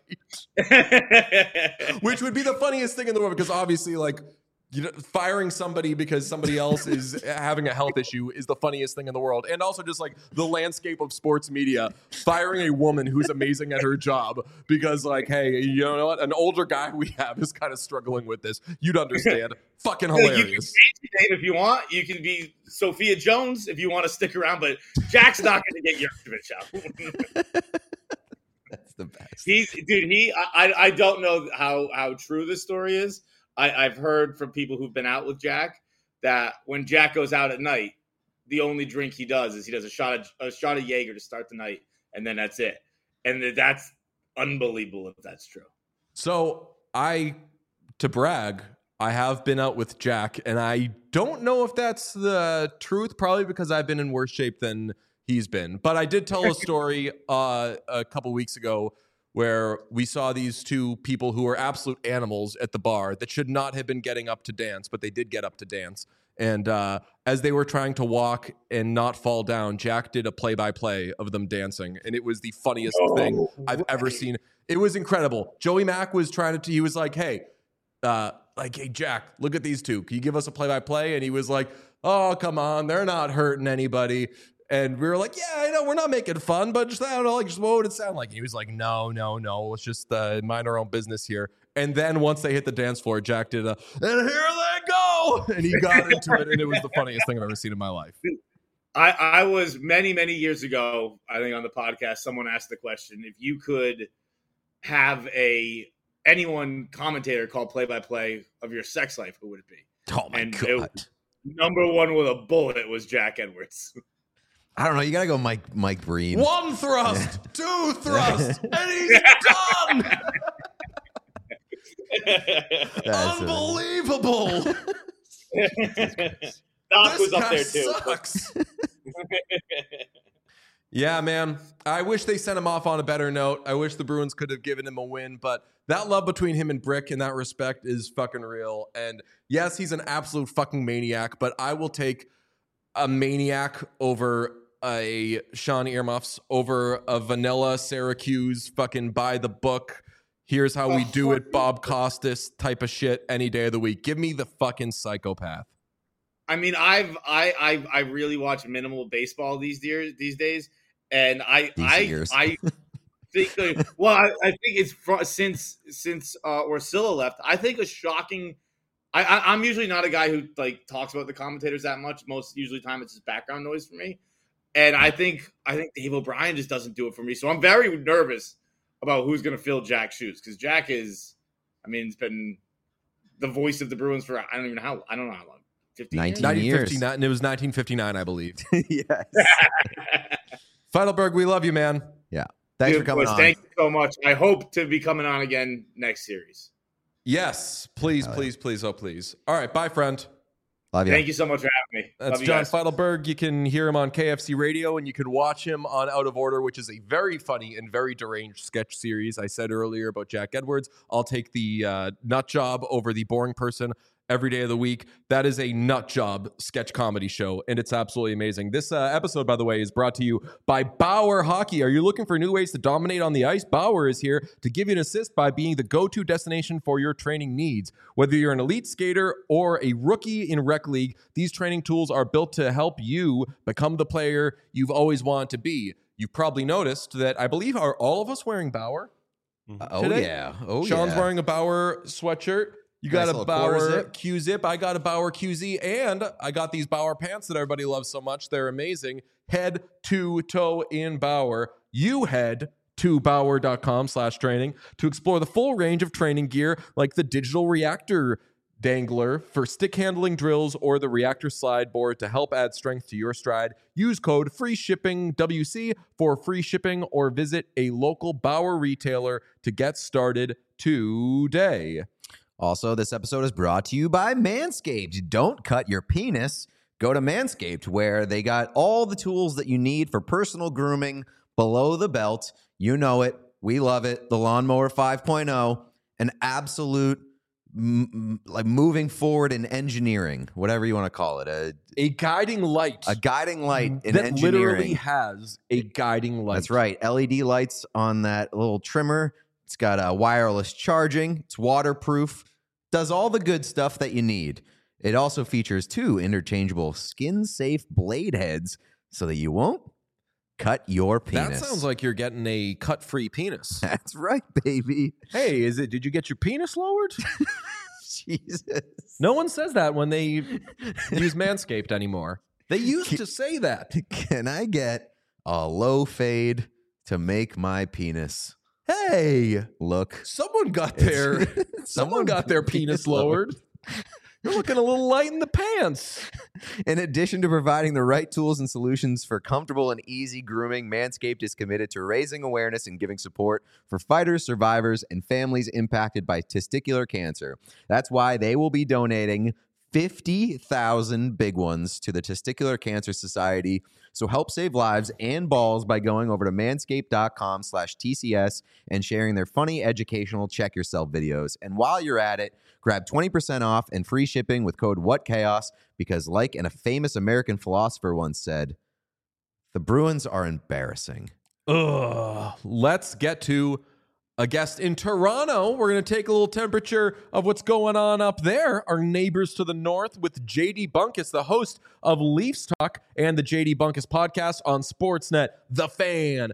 Speaker 1: Which would be the funniest thing in the world because obviously, like, you know, firing somebody because somebody else is having a health issue is the funniest thing in the world. And also just like the landscape of sports media, firing a woman who's amazing at her job because like, hey, you know what? An older guy we have is kind of struggling with this. You'd understand. Fucking hilarious. You can
Speaker 4: change your name if you want. You can be Sophia Jones if you want to stick around, but Jack's not going to get Jurcevic out.
Speaker 2: That's the best.
Speaker 4: I don't know how true this story is. I've heard from people who've been out with Jack that when Jack goes out at night, the only drink he does is he does a shot of Jaeger to start the night, and then that's it. And that's unbelievable if that's true.
Speaker 1: So to brag, I have been out with Jack, and I don't know if that's the truth, probably because I've been in worse shape than he's been. But I did tell a story a couple weeks ago where we saw these two people who were absolute animals at the bar that should not have been getting up to dance, but they did get up to dance. And as they were trying to walk and not fall down, Jack did a play-by-play of them dancing. And it was the funniest thing I've ever seen. It was incredible. Joey Mack was he was like, hey, Jack, look at these two. Can you give us a play-by-play? And he was like, oh, come on. They're not hurting anybody. And we were like, yeah, I know we're not making fun, but just, I don't know, like, just what would it sound like? And he was like, no, let's just mind our own business here. And then once they hit the dance floor, Jack did and here they go. And he got into it, and it was the funniest thing I've ever seen in my life.
Speaker 4: I was many, many years ago, I think on the podcast, someone asked the question, if you could have anyone commentator call play-by-play of your sex life, who would it be?
Speaker 2: Oh, my God.
Speaker 4: Number one with a bullet was Jack Edwards.
Speaker 2: I don't know. You got to go Mike Breen.
Speaker 1: One thrust, two thrusts, and he's done. Unbelievable.
Speaker 4: Doc was up there, too.
Speaker 1: Sucks. Yeah, man. I wish they sent him off on a better note. I wish the Bruins could have given him a win, but that love between him and Brick in that respect is fucking real. And yes, he's an absolute fucking maniac, but I will take a maniac over a Sean Earmuffs, over a vanilla Syracuse fucking by the book, here's how we do it, Bob Costas type of shit any day of the week. Give me the fucking psychopath.
Speaker 4: I mean, I really watch minimal baseball these days, and I think I think it's since Orsillo left. I think a shocking. I'm usually not a guy who like talks about the commentators that much. Most usually time it's just background noise for me. And I think Dave O'Brien just doesn't do it for me. So I'm very nervous about who's going to fill Jack's shoes because Jack is, I mean, it's been the voice of the Bruins for I don't know how long.
Speaker 2: 19 years.
Speaker 1: And it was 1959, I believe.
Speaker 2: Yes.
Speaker 1: Feidelberg, we love you, man.
Speaker 2: Yeah. Thanks for coming on.
Speaker 4: Thank you so much. I hope to be coming on again next series.
Speaker 1: Yes. Please, please, please. Oh, please. All right. Bye, friend.
Speaker 2: Love you.
Speaker 4: Thank you so much for having me. me.
Speaker 1: That's
Speaker 4: Love you
Speaker 1: John
Speaker 4: guys.
Speaker 1: Feidelberg. You can hear him on KFC Radio, and you can watch him on Out of Order, which is a very funny and very deranged sketch series. I said earlier about Jack Edwards. I'll take the nut job over the boring person every day of the week. That is a nut job sketch comedy show, and it's absolutely amazing. This episode, by the way, is brought to you by Bauer Hockey. Are you looking for new ways to dominate on the ice? Bauer is here to give you an assist by being the go-to destination for your training needs. Whether you're an elite skater or a rookie in rec league, these training tools are built to help you become the player you've always wanted to be. You've probably noticed that I believe are all of us wearing Bauer
Speaker 2: Oh
Speaker 1: today?
Speaker 2: yeah. Oh
Speaker 1: Sean's
Speaker 2: yeah.
Speaker 1: wearing a Bauer sweatshirt. You got
Speaker 2: Nice
Speaker 1: a
Speaker 2: little quarter
Speaker 1: Bauer
Speaker 2: zip.
Speaker 1: Q-zip. I got a Bauer QZ, and I got these Bauer pants that everybody loves so much. They're amazing. Head to toe in Bauer. You head to Bauer.com/training to explore the full range of training gear like the digital reactor dangler for stick handling drills or the reactor slide board to help add strength to your stride. Use code FREESHIPPINGWC for free shipping or visit a local Bauer retailer to get started today.
Speaker 2: Also, this episode is brought to you by Manscaped. Don't cut your penis. Go to Manscaped, where they got all the tools that you need for personal grooming below the belt. You know it. We love it. The Lawnmower 5.0, an absolute like moving forward in engineering, whatever you want to call it.
Speaker 1: A guiding light.
Speaker 2: A guiding light in
Speaker 1: that
Speaker 2: engineering.
Speaker 1: literally has a guiding light.
Speaker 2: That's right. LED lights on that little trimmer. It's got wireless charging. It's waterproof. Does all the good stuff that you need. It also features 2 interchangeable skin-safe blade heads so that you won't cut your penis.
Speaker 1: That sounds like you're getting a cut-free penis.
Speaker 2: That's right, baby.
Speaker 1: Hey, did you get your penis lowered?
Speaker 2: Jesus.
Speaker 1: No one says that when they use Manscaped anymore. They used to say that.
Speaker 2: Can I get a low fade to make my penis
Speaker 1: Hey,
Speaker 2: look?
Speaker 1: someone got their penis lowered. You're looking a little light in the pants.
Speaker 2: In addition to providing the right tools and solutions for comfortable and easy grooming, Manscaped is committed to raising awareness and giving support for fighters, survivors, and families impacted by testicular cancer. That's why they will be donating 50,000 big ones to the Testicular Cancer Society. So help save lives and balls by going over to manscaped.com/TCS and sharing their funny, educational check yourself videos. And while you're at it, grab 20% off and free shipping with code WhatChaos, because like a famous American philosopher once said, the Bruins are embarrassing.
Speaker 1: Ugh. Let's get to a guest in Toronto. We're going to take a little temperature of what's going on up there. Our neighbors to the north with JD Bunkus, the host of Leafs Talk and the JD Bunkus podcast on Sportsnet, The Fan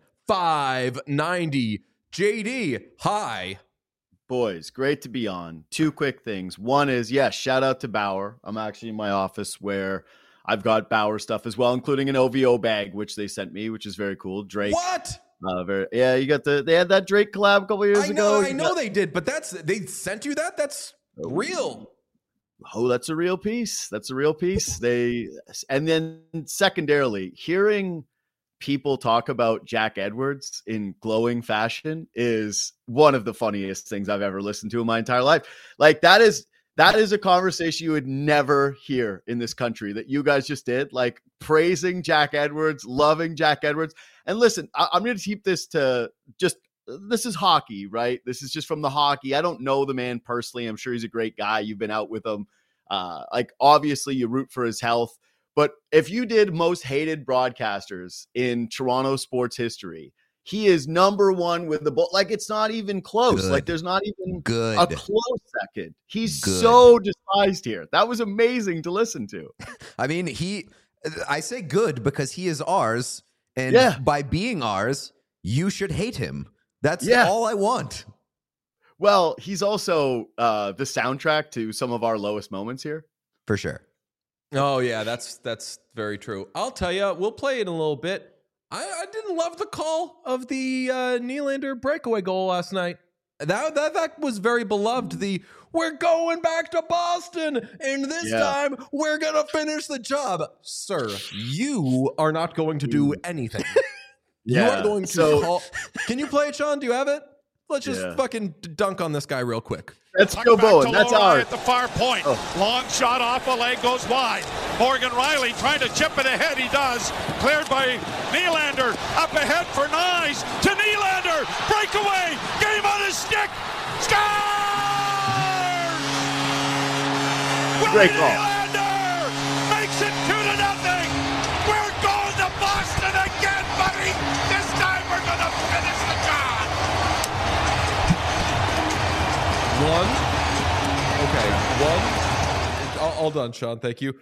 Speaker 1: 590. JD, hi.
Speaker 5: Boys, great to be on. 2 quick things. One is, yes, shout out to Bauer. I'm actually in my office where I've got Bauer stuff as well, including an OVO bag, which they sent me, which is very cool. Drake.
Speaker 1: What?
Speaker 5: You got they had that Drake collab a couple years ago.
Speaker 1: I know they did, but they sent you that? That's real.
Speaker 5: Oh, that's a real piece. That's a real piece. And then secondarily, hearing people talk about Jack Edwards in glowing fashion is one of the funniest things I've ever listened to in my entire life. Like that is a conversation you would never hear in this country that you guys just did, like praising Jack Edwards, loving Jack Edwards. And listen, I'm going to keep this to just, this is hockey, right? This is just from the hockey. I don't know the man personally. I'm sure he's a great guy. You've been out with him. Like obviously you root for his health, but if you did most hated broadcasters in Toronto sports history, he is number one with the ball. Like it's not even close.
Speaker 2: Good.
Speaker 5: Like there's not even
Speaker 2: Good.
Speaker 5: a close second. He's
Speaker 2: Good.
Speaker 5: so despised here. That was amazing to listen to.
Speaker 2: I mean, I say good because he is ours. And
Speaker 5: Yeah.
Speaker 2: by being ours, you should hate him. That's
Speaker 5: Yeah.
Speaker 2: all I want.
Speaker 5: Well, he's also the soundtrack to some of our lowest moments here.
Speaker 2: For sure.
Speaker 1: Oh, yeah, that's very true. I'll tell you, we'll play it in a little bit. I didn't love the call of the Nylander breakaway goal last night. That was very beloved. We're going back to Boston, and this time we're going to finish the job. Sir, you are not going to do anything. You are going to call. Can you play it, Sean? Do you have it? Let's just fucking dunk on this guy real quick.
Speaker 5: That's
Speaker 6: Puck
Speaker 5: Joe
Speaker 6: back
Speaker 5: Bowen.
Speaker 6: to
Speaker 5: That's
Speaker 6: Lohrei
Speaker 5: ours.
Speaker 6: at the far point.
Speaker 5: Oh.
Speaker 6: Long shot off a leg, goes wide. Morgan Riley trying to chip it ahead. He does. Cleared by Nylander. Up ahead for Nyes. To Nylander. Breakaway. Game on his stick. Scores!
Speaker 5: Great
Speaker 6: Willie
Speaker 5: call.
Speaker 6: Nylander makes it 2-0. We're going to Boston again, buddy. This time we're going to finish the job.
Speaker 1: All done, Sean. Thank you.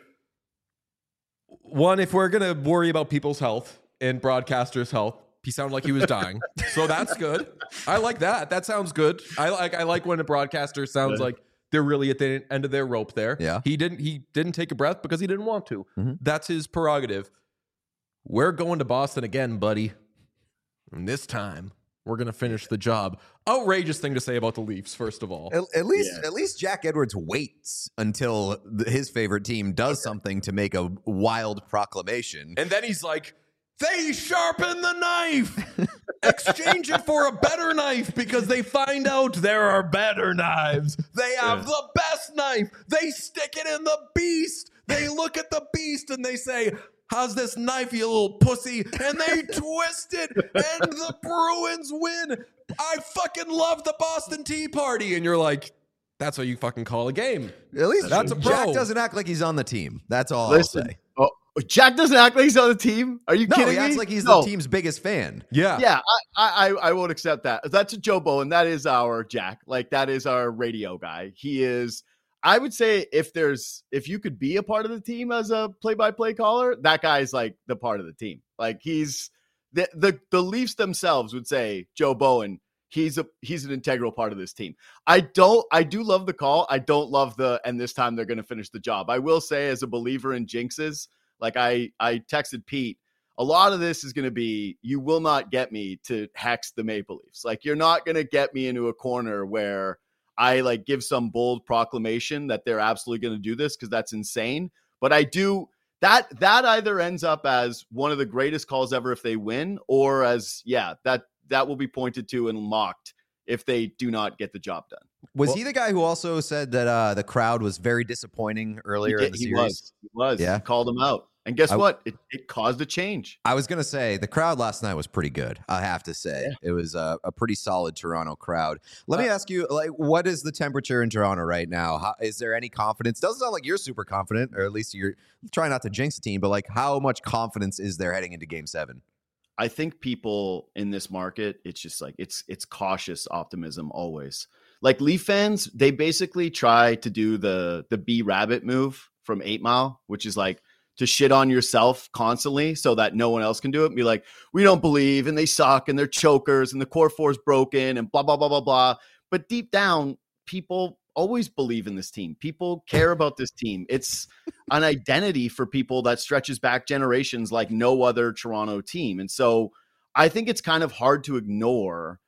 Speaker 1: One, if we're gonna worry about people's health and broadcasters' health, he sounded like he was dying, so that's good. I like that. That sounds good. I like when a broadcaster sounds like they're really at the end of their rope. There,
Speaker 2: Yeah.
Speaker 1: He didn't take a breath because he didn't want to.
Speaker 2: Mm-hmm.
Speaker 1: That's his prerogative. We're going to Boston again, buddy, and this time we're gonna finish the job. Outrageous thing to say about the Leafs, first of all.
Speaker 2: At least Jack Edwards waits until his favorite team does something to make a wild proclamation.
Speaker 1: And then he's like, they sharpen the knife. Exchange it for a better knife because they find out there are better knives. They have the best knife. They stick it in the beast. They look at the beast and they say, how's this knife, you little pussy? And they twist it and the Bruins win. I fucking love the Boston Tea Party. And you're like, that's what you fucking call a game.
Speaker 2: At least
Speaker 1: That's a pro.
Speaker 2: Jack doesn't act like he's on the team. That's all
Speaker 5: Listen,
Speaker 2: I'll say.
Speaker 5: oh, Jack doesn't act like he's on the team. Are you
Speaker 2: No,
Speaker 5: kidding
Speaker 2: he
Speaker 5: me?
Speaker 2: acts like he's
Speaker 5: No.
Speaker 2: the team's biggest fan.
Speaker 1: Yeah.
Speaker 5: Yeah, I won't accept that. That's a Joe Bowen. That is our Jack. Like, that is our radio guy. He is. I would say if you could be a part of the team as a play-by-play caller, that guy's like the part of the team. Like, he's the Leafs themselves would say Joe Bowen. He's an integral part of this team. I do love the call. I don't love and this time they're going to finish the job. I will say, as a believer in jinxes, like I texted Pete, a lot of this is going to be, you will not get me to hex the Maple Leafs. Like, you're not going to get me into a corner where I like give some bold proclamation that they're absolutely going to do this, because that's insane. But I do that either ends up as one of the greatest calls ever if they win, or as that will be pointed to and mocked if they do not get the job done.
Speaker 2: Was he the guy who also said that the crowd was very disappointing earlier in the series?
Speaker 5: He was.
Speaker 2: Yeah.
Speaker 5: He called him out. And guess what? It caused a change.
Speaker 2: I was going to say the crowd last night was pretty good. I have to say It was a pretty solid Toronto crowd. Let me ask you, like, what is the temperature in Toronto right now? Is there any confidence? Doesn't sound like you're super confident, or at least you're trying not to jinx the team, but like, how much confidence is there heading into Game 7?
Speaker 5: I think people in this market, it's just like, it's cautious optimism always. Like, Leaf fans, they basically try to do the B Rabbit move from 8 Mile, which is like to shit on yourself constantly so that no one else can do it and be like, we don't believe, and they suck, and they're chokers, and the core four is broken, and blah, blah, blah, blah, blah. But deep down, people always believe in this team. People care about this team. It's an identity for people that stretches back generations like no other Toronto team. And so I think it's kind of hard to ignore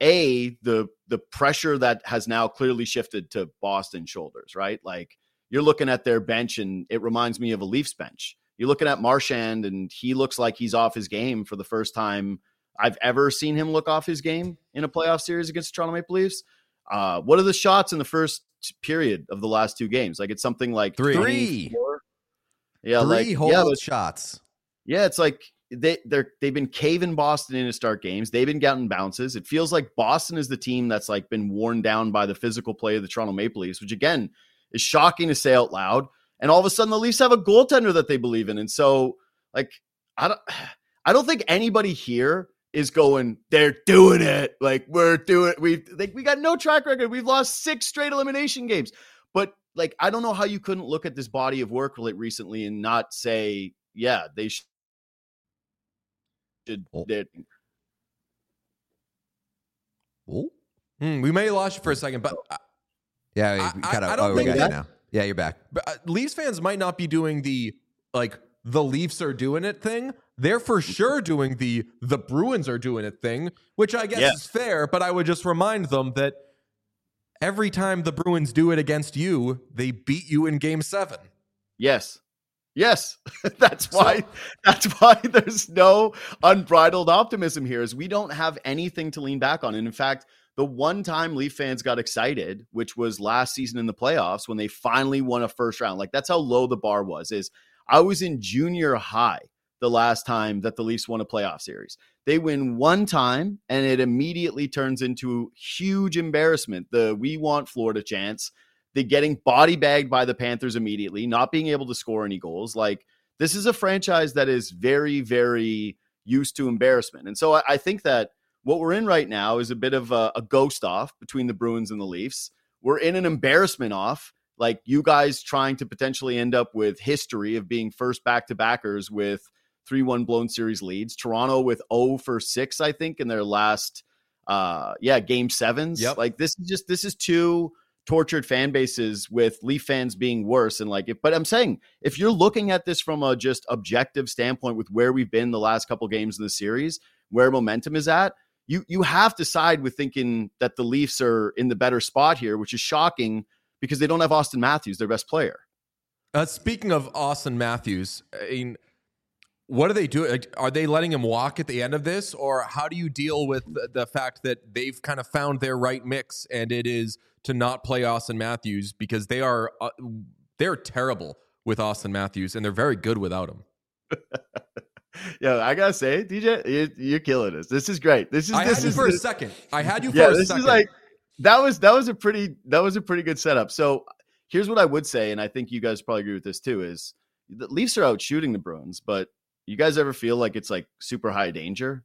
Speaker 5: the pressure that has now clearly shifted to Boston's shoulders, right? Like, you're looking at their bench and it reminds me of a Leafs bench. You're looking at Marchand and he looks like he's off his game for the first time I've ever seen him look off his game in a playoff series against the Toronto Maple Leafs. What are the shots in the first period of the last 2 games? Like, it's something like
Speaker 2: 3.
Speaker 5: 24. Yeah,
Speaker 2: Shots.
Speaker 5: Yeah, it's like they've been caving Boston in to start games. They've been getting bounces. It feels like Boston is the team that's like been worn down by the physical play of the Toronto Maple Leafs, which again is shocking to say out loud. And all of a sudden the Leafs have a goaltender that they believe in. And so, like, I don't think anybody here is going, they're doing it. Like, we got no track record. We've lost 6 straight elimination games. But like, I don't know how you couldn't look at this body of work recently and not say, yeah, they should.
Speaker 1: We may have lost you for a second, but
Speaker 2: Yeah,
Speaker 1: I don't
Speaker 2: we
Speaker 1: think
Speaker 2: got
Speaker 1: that-
Speaker 2: you now. Yeah, you're back.
Speaker 1: But Leafs fans might not be doing the Leafs are doing it thing. They're for sure doing the Bruins are doing it thing, which I guess is fair, but I would just remind them that every time the Bruins do it against you, they beat you in Game 7.
Speaker 5: Yes. That's why there's no unbridled optimism here, is we don't have anything to lean back on. And in fact, The one time Leaf fans got excited, which was last season in the playoffs when they finally won a first round. Like, that's how low the bar was. Is I was in junior high the last time that the Leafs won a playoff series. They win one time, and it immediately turns into huge embarrassment. The "we want Florida" chants, the getting body bagged by the Panthers immediately, not being able to score any goals. Like, this is a franchise that is very, very used to embarrassment. And so I think that what we're in right now is a bit of a ghost off between the Bruins and the Leafs. We're in an embarrassment off, like you guys trying to potentially end up with history of being first back-to-backers with 3-1 blown series leads. Toronto with 0-for-6, I think, in their last game sevens.
Speaker 1: Yep.
Speaker 5: Like, this is two tortured fan bases with Leaf fans being worse. And but I'm saying, if you're looking at this from a just objective standpoint with where we've been the last couple games in the series, where momentum is at, you have to side with thinking that the Leafs are in the better spot here, which is shocking because they don't have Austin Matthews, their best player.
Speaker 1: Speaking of Austin Matthews, I mean, what do they do? Are they letting him walk at the end of this, or how do you deal with the fact that they've kind of found their right mix, and it is to not play Austin Matthews because they're terrible with Austin Matthews, and they're very good without him.
Speaker 5: Yeah, I gotta say, DJ, you're killing us. This is great.
Speaker 1: I had you for a second. Is like
Speaker 5: that was a pretty good setup. So here's what I would say, and I think you guys probably agree with this too: is the Leafs are out shooting the Bruins, but you guys ever feel like it's like super high danger?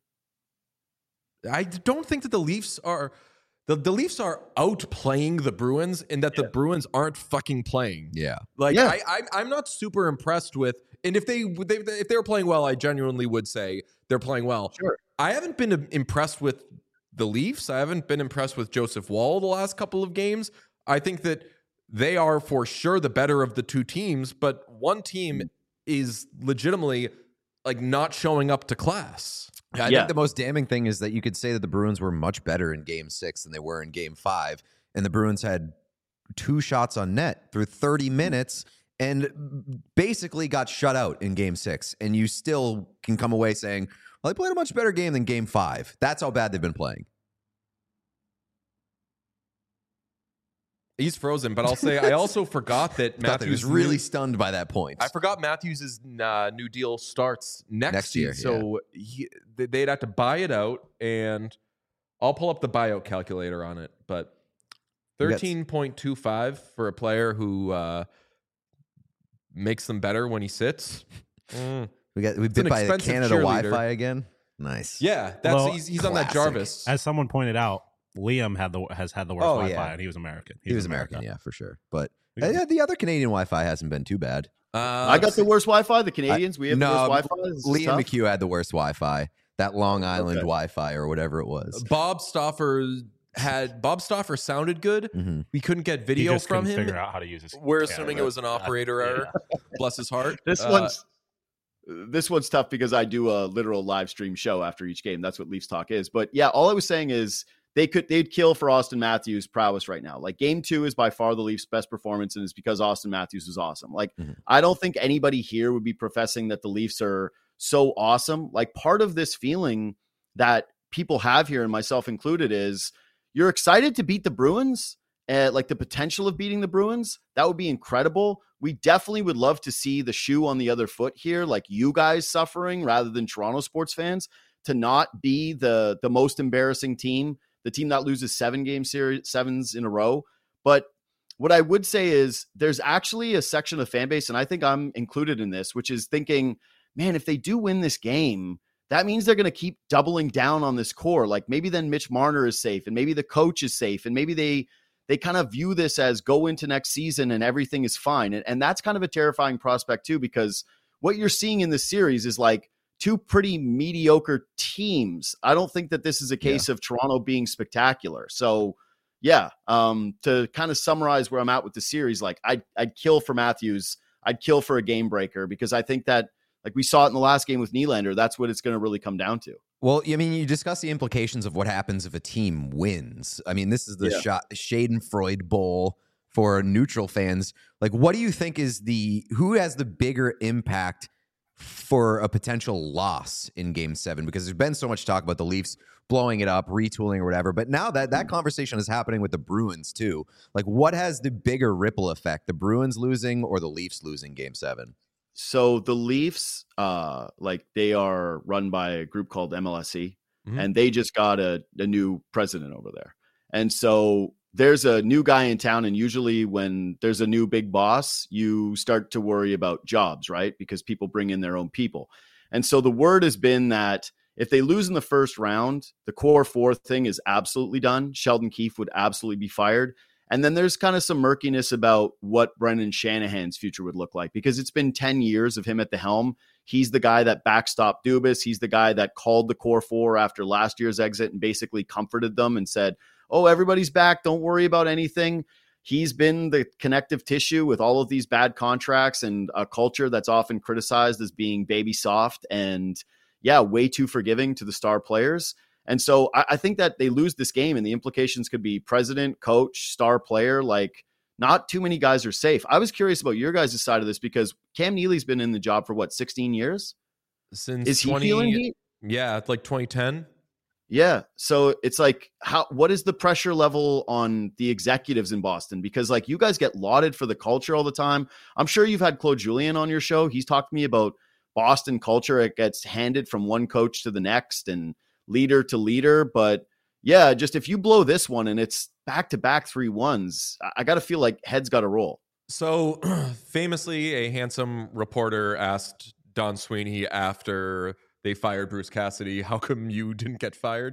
Speaker 1: I don't think that the Leafs are. The Leafs are outplaying the Bruins in that the Bruins aren't fucking playing.
Speaker 2: Yeah.
Speaker 1: I'm not super impressed with, and if they were playing well, I genuinely would say they're playing well.
Speaker 5: Sure.
Speaker 1: I haven't been impressed with the Leafs. I haven't been impressed with Joseph Woll the last couple of games. I think that they are for sure the better of the two teams, but one team is legitimately like not showing up to class.
Speaker 2: I think the most damning thing is that you could say that the Bruins were much better in Game 6 than they were in Game 5, and the Bruins had 2 shots on net through 30 minutes and basically got shut out in Game 6, and you still can come away saying, well, they played a much better game than Game 5. That's how bad they've been playing.
Speaker 1: He's frozen, but I'll say I also forgot that Matthews
Speaker 2: was really stunned by that point.
Speaker 1: I forgot Matthews' new deal starts next
Speaker 2: year,
Speaker 1: so they'd have to buy it out, and I'll pull up the buyout calculator on it. But 13.25 for a player who makes them better when he sits.
Speaker 2: We bit by the Canada Wi-Fi again. Nice.
Speaker 1: Yeah, he's on that Jarvis.
Speaker 3: As someone pointed out, Liam has had the worst Wi-Fi, and he was American.
Speaker 2: He was American, yeah, for sure. But the other Canadian Wi-Fi hasn't been too bad.
Speaker 5: I got the worst Wi-Fi. The Canadians, we have the worst Wi-Fi.
Speaker 2: Liam McHugh had the worst Wi-Fi. That Long Island Wi-Fi or whatever it was.
Speaker 1: Bob Stauffer sounded good.
Speaker 2: Mm-hmm.
Speaker 1: We couldn't get video from him.
Speaker 3: Figure out how to use his.
Speaker 1: We're assuming it was an operator error. Bless his heart.
Speaker 5: This one's tough because I do a literal live stream show after each game. That's what Leafs Talk is. But yeah, all I was saying is they'd kill for Austin Matthews' prowess right now. Like, Game 2 is by far the Leafs' best performance, and it's because Austin Matthews is awesome. Like, I don't think anybody here would be professing that the Leafs are so awesome. Like, part of this feeling that people have here, and myself included, is you're excited to beat the Bruins, like the potential of beating the Bruins. That would be incredible. We definitely would love to see the shoe on the other foot here, like you guys suffering rather than Toronto sports fans, to not be the most embarrassing team, the team that loses 7-game sevens in a row. But what I would say is there's actually a section of the fan base, and I think I'm included in this, which is thinking, man, if they do win this game, that means they're going to keep doubling down on this core. Like, maybe then Mitch Marner is safe, and maybe the coach is safe, and maybe they kind of view this as go into next season and everything is fine. And that's kind of a terrifying prospect too, because what you're seeing in this series is like two pretty mediocre teams. I don't think that this is a case of Toronto being spectacular. So yeah, to kind of summarize where I'm at with the series, like I'd kill for Matthews. I'd kill for a game breaker, because I think that, like we saw it in the last game with Nylander, that's what it's going to really come down to.
Speaker 2: Well, I mean, you discuss the implications of what happens if a team wins. I mean, this is the Schadenfreude Bowl for neutral fans. Like, what do you think is who has the bigger impact for a potential loss in Game 7, because there's been so much talk about the Leafs blowing it up, retooling or whatever. But now that conversation is happening with the Bruins too. Like, what has the bigger ripple effect, the Bruins losing or the Leafs losing Game 7?
Speaker 5: So the Leafs, they are run by a group called MLSE, and they just got a new president over there. And so there's a new guy in town, and usually when there's a new big boss, you start to worry about jobs, right? Because people bring in their own people. And so the word has been that if they lose in the first round, the core four thing is absolutely done. Sheldon Keefe would absolutely be fired. And then there's kind of some murkiness about what Brendan Shanahan's future would look like, because it's been 10 years of him at the helm. He's the guy that backstopped Dubas. He's the guy that called the core four after last year's exit and basically comforted them and said, oh, everybody's back. Don't worry about anything. He's been the connective tissue with all of these bad contracts and a culture that's often criticized as being baby soft and, way too forgiving to the star players. And so I think that they lose this game, and the implications could be president, coach, star player. Like, not too many guys are safe. I was curious about your guys' side of this, because Cam Neely's been in the job for 16 years?
Speaker 1: Since
Speaker 5: Is he feeling heat?
Speaker 1: Yeah, it's like 2010.
Speaker 5: Yeah. So it's like, what is the pressure level on the executives in Boston? Because like, you guys get lauded for the culture all the time. I'm sure you've had Claude Julien on your show. He's talked to me about Boston culture. It gets handed from one coach to the next and leader to leader. But yeah, just if you blow this one and it's back-to-back 3-1s, I got to feel like heads got to roll.
Speaker 1: So famously, a handsome reporter asked Don Sweeney after they fired Bruce Cassidy, how come you didn't get fired?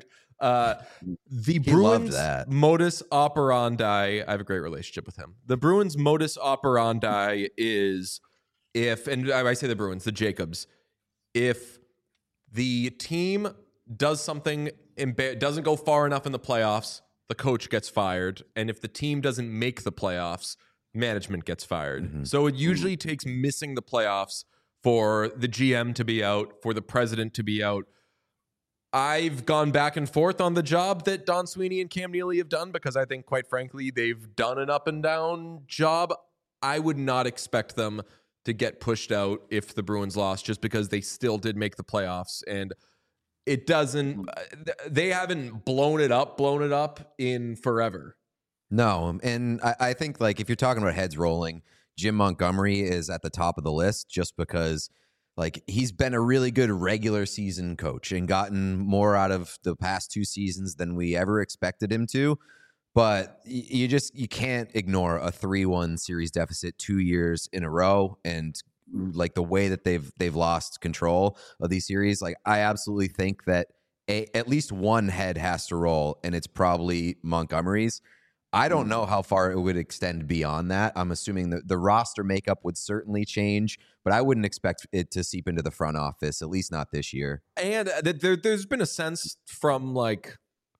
Speaker 1: The Bruins modus operandi, I have a great relationship with him. The Bruins modus operandi is and I say the Bruins, the Jacobs, if the team does something, doesn't go far enough in the playoffs, the coach gets fired. And if the team doesn't make the playoffs, management gets fired. Mm-hmm. So it usually takes missing the playoffs for the GM to be out, for the president to be out. I've gone back and forth on the job that Don Sweeney and Cam Neely have done, because I think, quite frankly, they've done an up and down job. I would not expect them to get pushed out if the Bruins lost, just because they still did make the playoffs. And it doesn't, they haven't blown it up in forever.
Speaker 2: No. And I think, like, if you're talking about heads rolling, Jim Montgomery is at the top of the list, just because, like, he's been a really good regular season coach and gotten more out of the past 2 seasons than we ever expected him to. But you can't ignore a 3-1 series deficit 2 years in a row, and like the way that they've lost control of these series. Like, I absolutely think that at least one head has to roll, and it's probably Montgomery's. I don't know how far it would extend beyond that. I'm assuming that the roster makeup would certainly change, but I wouldn't expect it to seep into the front office, at least not this year.
Speaker 1: And there's been a sense from, like,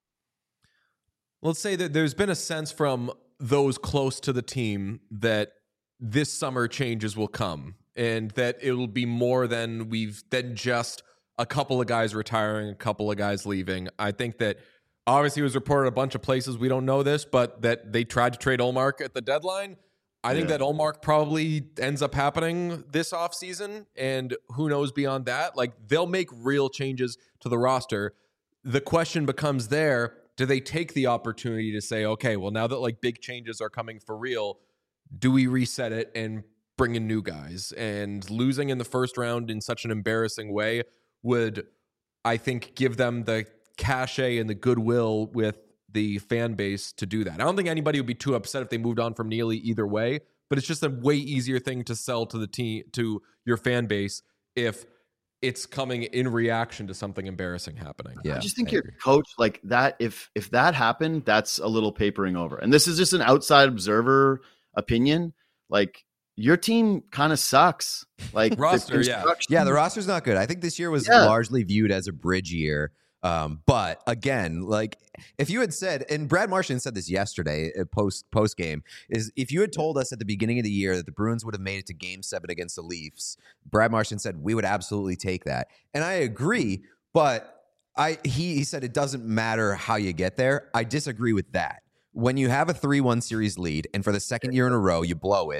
Speaker 1: let's say that there's been a sense from those close to the team that this summer changes will come, and that it will be more than just a couple of guys retiring, a couple of guys leaving. I think that obviously it was reported a bunch of places, we don't know this, but that they tried to trade Ullmark at the deadline. I think that Ullmark probably ends up happening this offseason, and who knows beyond that. Like, they'll make real changes to the roster. The question becomes do they take the opportunity to say, okay, well, now that, like, big changes are coming for real, do we reset it and bring in new guys? And losing in the first round in such an embarrassing way would, I think, give them the cachet and the goodwill with the fan base to do that. I don't think anybody would be too upset if they moved on from Neely either way, but it's just a way easier thing to sell to the team, to your fan base, if it's coming in reaction to something embarrassing happening.
Speaker 5: Yeah, I just think your coach, like that, if that happened, that's a little papering over. And this is just an outside observer opinion. Like, your team kind of sucks. Like,
Speaker 1: roster,
Speaker 2: the roster's not good. I think this year was largely viewed as a bridge year. But again, like, if you had said, and Brad Marchand said this yesterday post game, is if you had told us at the beginning of the year that the Bruins would have made it to Game 7 against the Leafs, Brad Marchand said we would absolutely take that. And I agree, but he said it doesn't matter how you get there. I disagree with that. When you have a 3-1 series lead and for the second year in a row you blow it,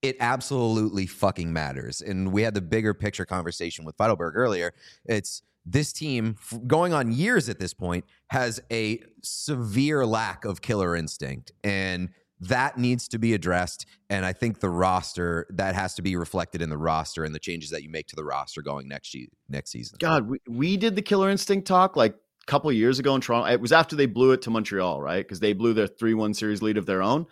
Speaker 2: it absolutely fucking matters. And we had the bigger picture conversation with Feidelberg earlier. It's this team going on years at this point has a severe lack of killer instinct, and that needs to be addressed. And I think the roster, that has to be reflected in the roster and the changes that you make to the roster going next season.
Speaker 5: God, we did the killer instinct talk like a couple of years ago in Toronto. It was after they blew it to Montreal, right? Because they blew their 3-1 series lead of their own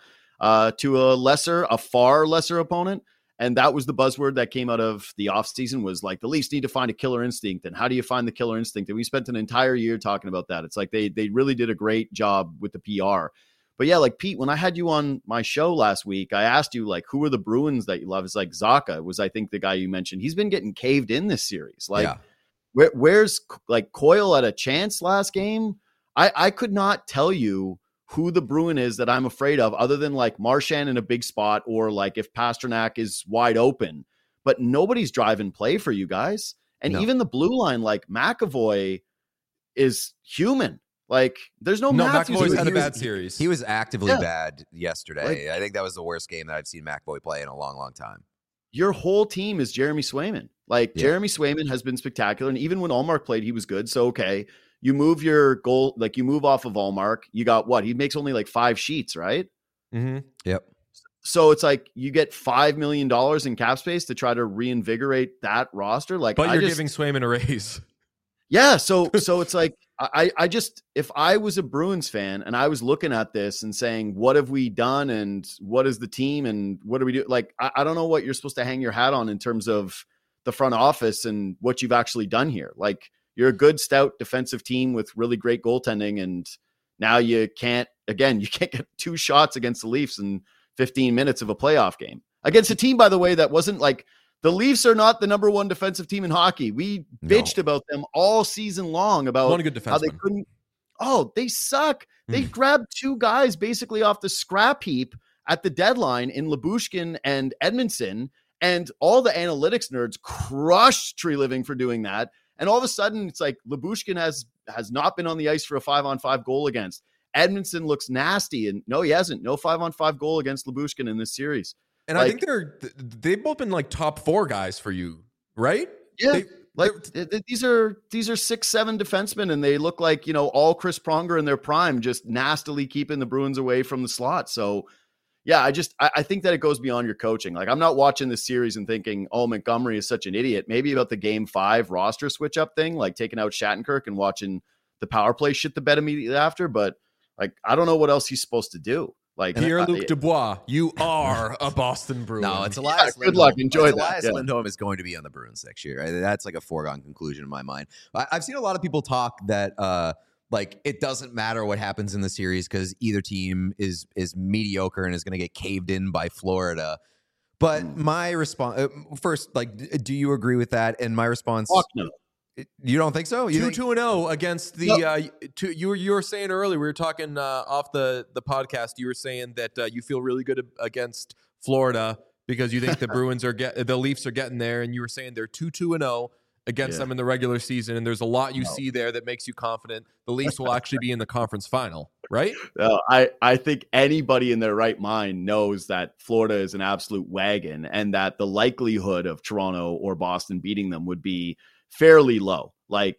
Speaker 5: to a far lesser opponent. And that was the buzzword that came out of the offseason, was like the Leafs need to find a killer instinct. And how do you find the killer instinct? And we spent an entire year talking about that. It's like they really did a great job with the PR. But yeah, like Pete, when I had you on my show last week, I asked you, like, who are the Bruins that you love? It's like Zacha was, I think, the guy you mentioned. He's been getting caved in this series. Like, where's like Coyle at a chance last game? I could not tell you who the Bruin is that I'm afraid of, other than like Marchand in a big spot, or like if Pasternak is wide open. But nobody's driving play for you guys. And even the blue line, like McAvoy is human. Like, there's no Matthews.
Speaker 1: McAvoy's had a bad series.
Speaker 2: He was actively bad yesterday. I think that was the worst game that I've seen McAvoy play in a long, long time.
Speaker 5: Your whole team is Jeremy Swayman. Like, Jeremy Swayman has been spectacular. And even when Ullmark played, he was good. So, okay, you move your goal, like you move off of Ullmark. You got what? He makes only like 5 sheets, right?
Speaker 2: Mm-hmm. Yep.
Speaker 5: So it's like you get $5 million in cap space to try to reinvigorate that roster. Like,
Speaker 1: but you're giving Swayman a raise.
Speaker 5: Yeah. So it's like, I just, if I was a Bruins fan and I was looking at this and saying, what have we done and what is the team and what do we do? Like, I don't know what you're supposed to hang your hat on in terms of the front office and what you've actually done here. Like, you're a good, stout defensive team with really great goaltending. And now you can't get 2 shots against the Leafs in 15 minutes of a playoff game against a team, by the way, that wasn't like, the Leafs are not the number 1 defensive team in hockey. We bitched about them all season long about
Speaker 1: one good defenseman.
Speaker 5: How they couldn't. Oh, they suck. They grabbed 2 guys basically off the scrap heap at the deadline in Lyubushkin and Edmondson, and all the analytics nerds crushed Tree Living for doing that. And all of a sudden, it's like Lyubushkin has not been on the ice for a 5-on-5 goal against. Edmondson looks nasty, and no, he hasn't. No 5-on-5 goal against Lyubushkin in this series.
Speaker 1: And like, I think they've both been like top 4 guys for you, right?
Speaker 5: Yeah. These are 6-7 defensemen, and they look like, all Chris Pronger in their prime, just nastily keeping the Bruins away from the slot. So yeah, I think that it goes beyond your coaching. Like, I'm not watching this series and thinking, oh, Montgomery is such an idiot. Maybe about the game 5 roster switch up thing, like taking out Shattenkirk and watching the power play shit the bed immediately after. But like, I don't know what else he's supposed to do. Like,
Speaker 1: Pierre-Luc Dubois, you are a Boston Bruin.
Speaker 2: No, it's Elias Lindholm.
Speaker 5: Good luck. Enjoy that.
Speaker 2: Elias Lindholm is going to be on the Bruins next year. That's like a foregone conclusion in my mind. I've seen a lot of people talk that like it doesn't matter what happens in the series because either team is mediocre and is going to get caved in by Florida. But my response first, like, do you agree with that? And my response,
Speaker 5: fuck no.
Speaker 2: You don't think so?
Speaker 1: 2-0 against the you were saying earlier, we were talking off the podcast, you were saying that you feel really good against Florida because you think the Bruins the Leafs are getting there, and you were saying they're 2-0 against them in the regular season, and there's a lot you see there that makes you confident the Leafs will actually be in the conference final, right?
Speaker 5: No, I think anybody in their right mind knows that Florida is an absolute wagon, and that the likelihood of Toronto or Boston beating them would be fairly low. Like,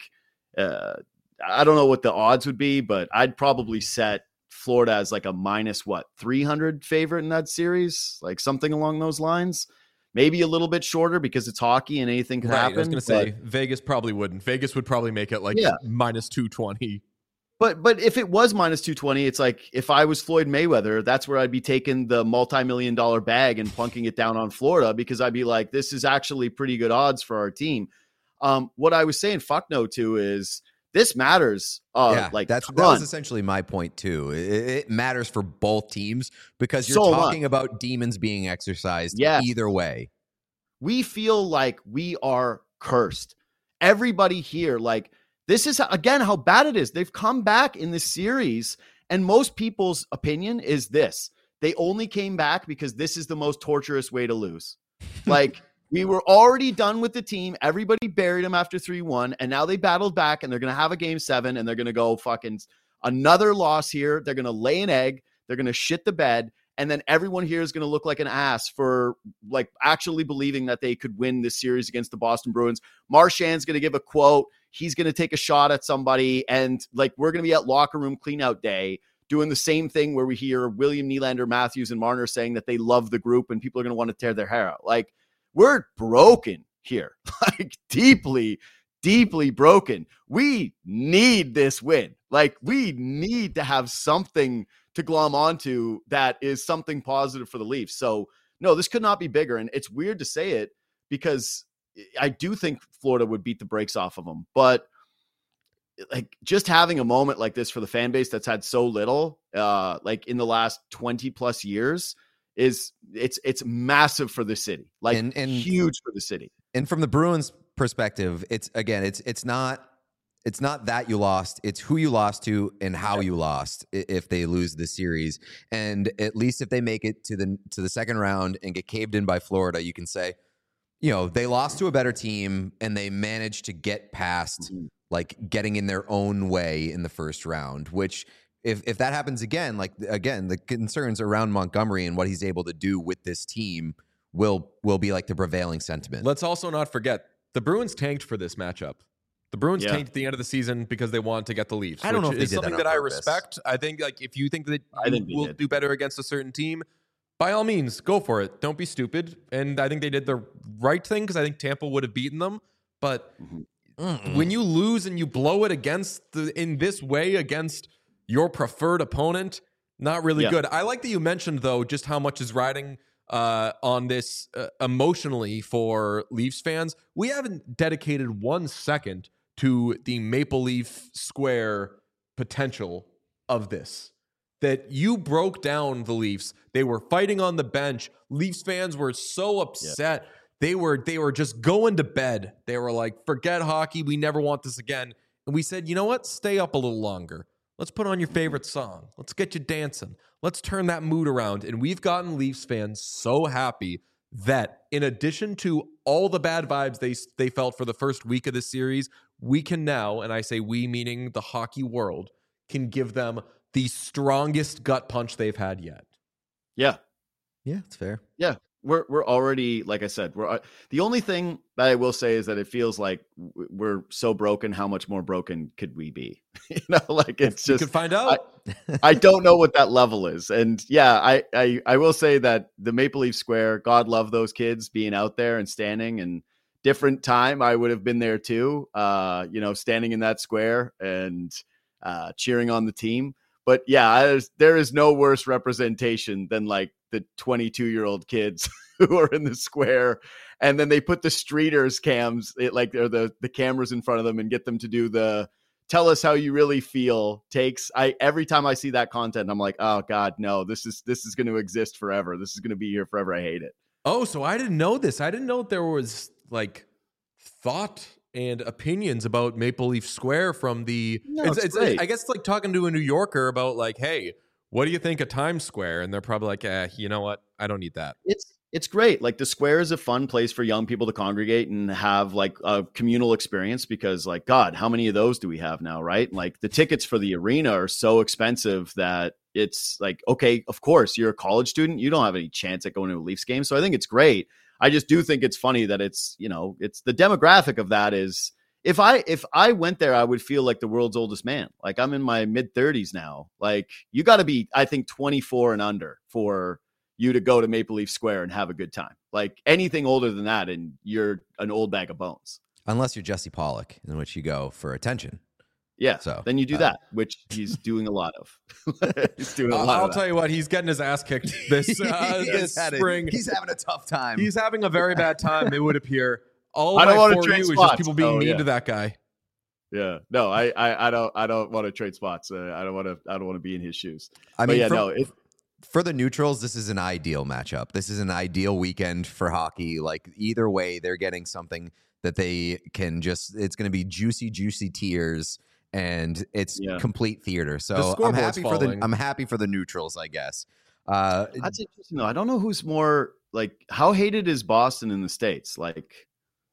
Speaker 5: I don't know what the odds would be, but I'd probably set Florida as like a minus 300 favorite in that series, like something along those lines. Maybe a little bit shorter because it's hockey and anything can happen.
Speaker 1: I was going to say Vegas probably wouldn't. Vegas would probably make it like minus 220.
Speaker 5: But if it was minus 220, it's like if I was Floyd Mayweather, that's where I'd be taking the multi-million-dollar bag and plunking it down on Florida, because I'd be like, this is actually pretty good odds for our team. What I was saying fuck no to is this matters. That
Speaker 2: was essentially my point too. It matters for both teams because you're talking about demons being exercised either way.
Speaker 5: We feel like we are cursed. Everybody here, like, this is again how bad it is. They've come back in this series, and most people's opinion is this: they only came back because this is the most torturous way to lose. Like, we were already done with the team. Everybody buried them after 3-1, and now they battled back, and they're going to have a game 7, and they're going to go fucking another loss here. They're going to lay an egg. They're going to shit the bed, And then everyone here is going to look like an ass for like actually believing that they could win this series against the Boston Bruins. Marchand's going to give a quote. He's going to take a shot at somebody. And like, we're going to be at locker room cleanout day doing the same thing where we hear William Nylander, Matthews, and Marner saying that they love the group and people are going to want to tear their hair out. Like, we're broken here, like deeply, deeply broken. We need this win. Like, we need to have something to glom onto that is something positive for the Leafs. So no, this could not be bigger. And it's weird to say it because I do think Florida would beat the brakes off of them, but like just having a moment like this for the fan base that's had so little, like in the last 20 plus years it's massive for the city, like and huge for the city.
Speaker 2: And from the Bruins perspective, it's not that you lost, it's who you lost to and how you lost if they lose the series. And at least if they make it to the second round and get caved in by Florida, you can say, you know, they lost to a better team and they managed to get past like getting in their own way in the first round, which if that happens again, like again, the concerns around Montgomery and what he's able to do with this team will be like the prevailing sentiment.
Speaker 1: Let's also not forget the Bruins tanked for this matchup. The Bruins tanked at the end of the season because they wanted to get the Leafs.
Speaker 2: I don't know if they
Speaker 1: is
Speaker 2: did
Speaker 1: something
Speaker 2: that
Speaker 1: I
Speaker 2: purpose.
Speaker 1: respect. I think like if you think that you will do better against a certain team, by all means, go for it. Don't be stupid. And I think they did the right thing because I think Tampa would have beaten them. But when you lose and you blow it in this way against your preferred opponent, not really good. I like that you mentioned, though, just how much is riding on this emotionally for Leafs fans. We haven't dedicated 1 second to the Maple Leaf Square potential of this. That you broke down the Leafs. They were fighting on the bench. Leafs fans were so upset. They were just going to bed. They were like, forget hockey. We never want this again. And we said, you know what? Stay up a little longer. Let's put on your favorite song. Let's get you dancing. Let's turn that mood around. And we've gotten Leafs fans so happy that in addition to all the bad vibes they felt for the first week of the series, we can now, and I say we meaning the hockey world, can give them the strongest gut punch they've had yet.
Speaker 5: Yeah,
Speaker 2: it's fair.
Speaker 5: Yeah, we're already, like I said, the only thing that I will say is that it feels like we're so broken. How much more broken could we be? You know, like it's just
Speaker 1: you can find out.
Speaker 5: I don't know what that level is, and yeah, I will say that the Maple Leaf Square, God love those kids being out there and standing. And different time, I would have been there too. You know, standing in that square and cheering on the team. But yeah, there is no worse representation than like the 22-year-old kids who are in the square, and then they put the streeters cams, or the cameras in front of them, and get them to do the "tell us how you really feel" takes. Every time I see that content, I'm like, oh God, no, this is going to exist forever. This is going to be here forever. I hate it.
Speaker 1: Oh, so I didn't know this. I didn't know there was like thought and opinions about Maple Leaf Square from the it's I guess it's like talking to a New Yorker about like, hey, what do you think of Times Square? And they're probably like, you know what? I don't need that.
Speaker 5: It's great. Like the square is a fun place for young people to congregate and have like a communal experience because like, God, how many of those do we have now? Right. Like the tickets for the arena are so expensive that it's like, okay, of course you're a college student. You don't have any chance at going to a Leafs game. So I think it's great. I just do think it's funny that it's, you know, it's the demographic of that is if I went there, I would feel like the world's oldest man. Like I'm in my mid 30s now. Like you got to be, I think 24 and under for you to go to Maple Leaf Square and have a good time. Like anything older than that, and you're an old bag of bones.
Speaker 2: Unless you're Jesse Pollock, in which you go for attention.
Speaker 5: Yeah,
Speaker 2: so
Speaker 5: then you do that, which he's doing a lot of. He's doing a lot.
Speaker 1: I'll tell you what, he's getting his ass kicked this spring.
Speaker 2: He's having a tough time.
Speaker 1: He's having a very bad time. It would appear. All
Speaker 5: I don't
Speaker 1: my
Speaker 5: want
Speaker 1: for
Speaker 5: to trade
Speaker 1: you
Speaker 5: spots.
Speaker 1: is just people being mean to that guy.
Speaker 5: Yeah, no, I don't want to trade spots. I don't want to be in his shoes.
Speaker 2: I mean, for the neutrals, this is an ideal matchup. This is an ideal weekend for hockey. Like either way, they're getting something that they can just. It's going to be juicy tears. And it's complete theater. So I'm happy for the neutrals, I guess.
Speaker 5: That's interesting though. I don't know who's more like how hated is Boston in the States? Like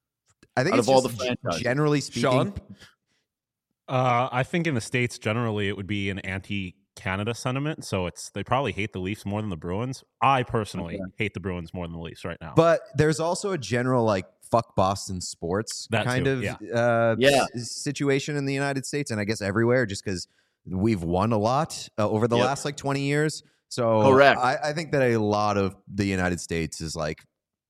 Speaker 2: I think
Speaker 5: out
Speaker 2: it's
Speaker 5: of all
Speaker 2: just
Speaker 5: the franchises.
Speaker 2: Generally speaking.
Speaker 1: Sean?
Speaker 3: I think in the States generally it would be an Canada sentiment, so they probably hate the Leafs more than the Bruins. I personally hate the Bruins more than the Leafs right now.
Speaker 2: But there's also a general like fuck Boston sports situation in the United States, and I guess everywhere, just because we've won a lot over the last like 20 years. So
Speaker 5: correct.
Speaker 2: I think that a lot of the United States is like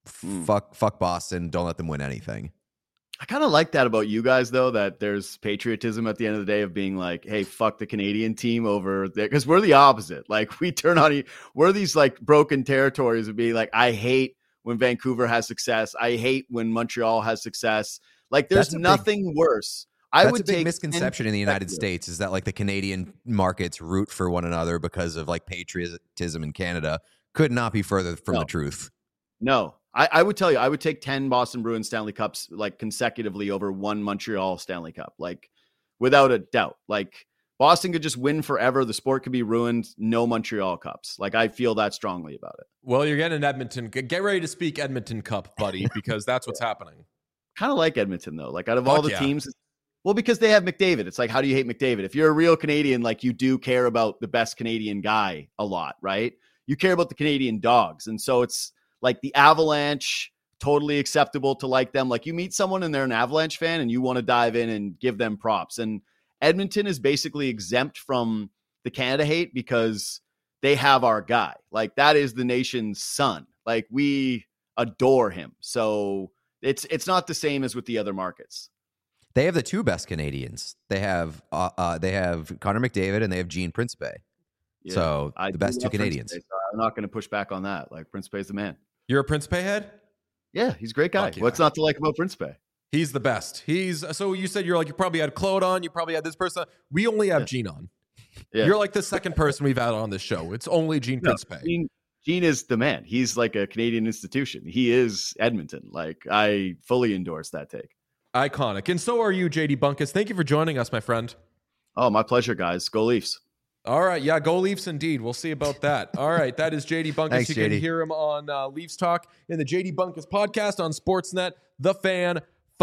Speaker 2: fuck Boston, don't let them win anything.
Speaker 5: I kind of like that about you guys, though, that there's patriotism at the end of the day of being like, hey, fuck the Canadian team over there. Because we're the opposite. Like, we turn on, we're these like broken territories of being like, I hate when Vancouver has success. I hate when Montreal has success. Like, there's nothing worse.
Speaker 2: That's a big misconception in the United States is that like the Canadian markets root for one another because of like patriotism in Canada. Could not be further from the truth.
Speaker 5: No. I would tell you, I would take 10 Boston Bruins Stanley Cups like consecutively over one Montreal Stanley Cup, like without a doubt. Like Boston could just win forever. The sport could be ruined. No Montreal Cups. Like I feel that strongly about it.
Speaker 1: Well, you're getting Edmonton. Get ready to speak Edmonton Cup, buddy, because that's what's happening.
Speaker 5: Kind of like Edmonton, though. Like out of all the teams, well, because they have McDavid. It's like, how do you hate McDavid? If you're a real Canadian, like you do care about the best Canadian guy a lot, right? You care about the Canadian dogs. And so it's like the Avalanche, totally acceptable to like them. Like you meet someone and they're an Avalanche fan and you want to dive in and give them props. And Edmonton is basically exempt from the Canada hate because they have our guy. Like that is the nation's son. Like we adore him. So it's not the same as with the other markets.
Speaker 2: They have the two best Canadians. They have Connor McDavid and they have Gene Principe.
Speaker 5: Yeah,
Speaker 2: so the best two Canadians.
Speaker 5: Principe, so I'm not going to push back on that. Like Principe is the man.
Speaker 1: You're a Principe head?
Speaker 5: Yeah, he's a great guy.
Speaker 1: Yeah.
Speaker 5: What's not to like about Principe?
Speaker 1: He's the best. So you said you probably had Claude on, you probably had this person. We only have Gene on. Yeah. You're like the second person we've had on this show. It's only Gene Principe.
Speaker 5: Gene is the man. He's like a Canadian institution. He is Edmonton. Like I fully endorse that take.
Speaker 1: Iconic. And so are you, JD Bunkus. Thank you for joining us, my friend.
Speaker 5: Oh, my pleasure, guys. Go Leafs.
Speaker 1: All right. Yeah, go Leafs indeed. We'll see about that. All right. That is JD Bunkus.
Speaker 2: Thanks,
Speaker 1: you
Speaker 2: JD.
Speaker 1: can hear him on Leafs Talk in the JD Bunkus podcast on Sportsnet, The Fan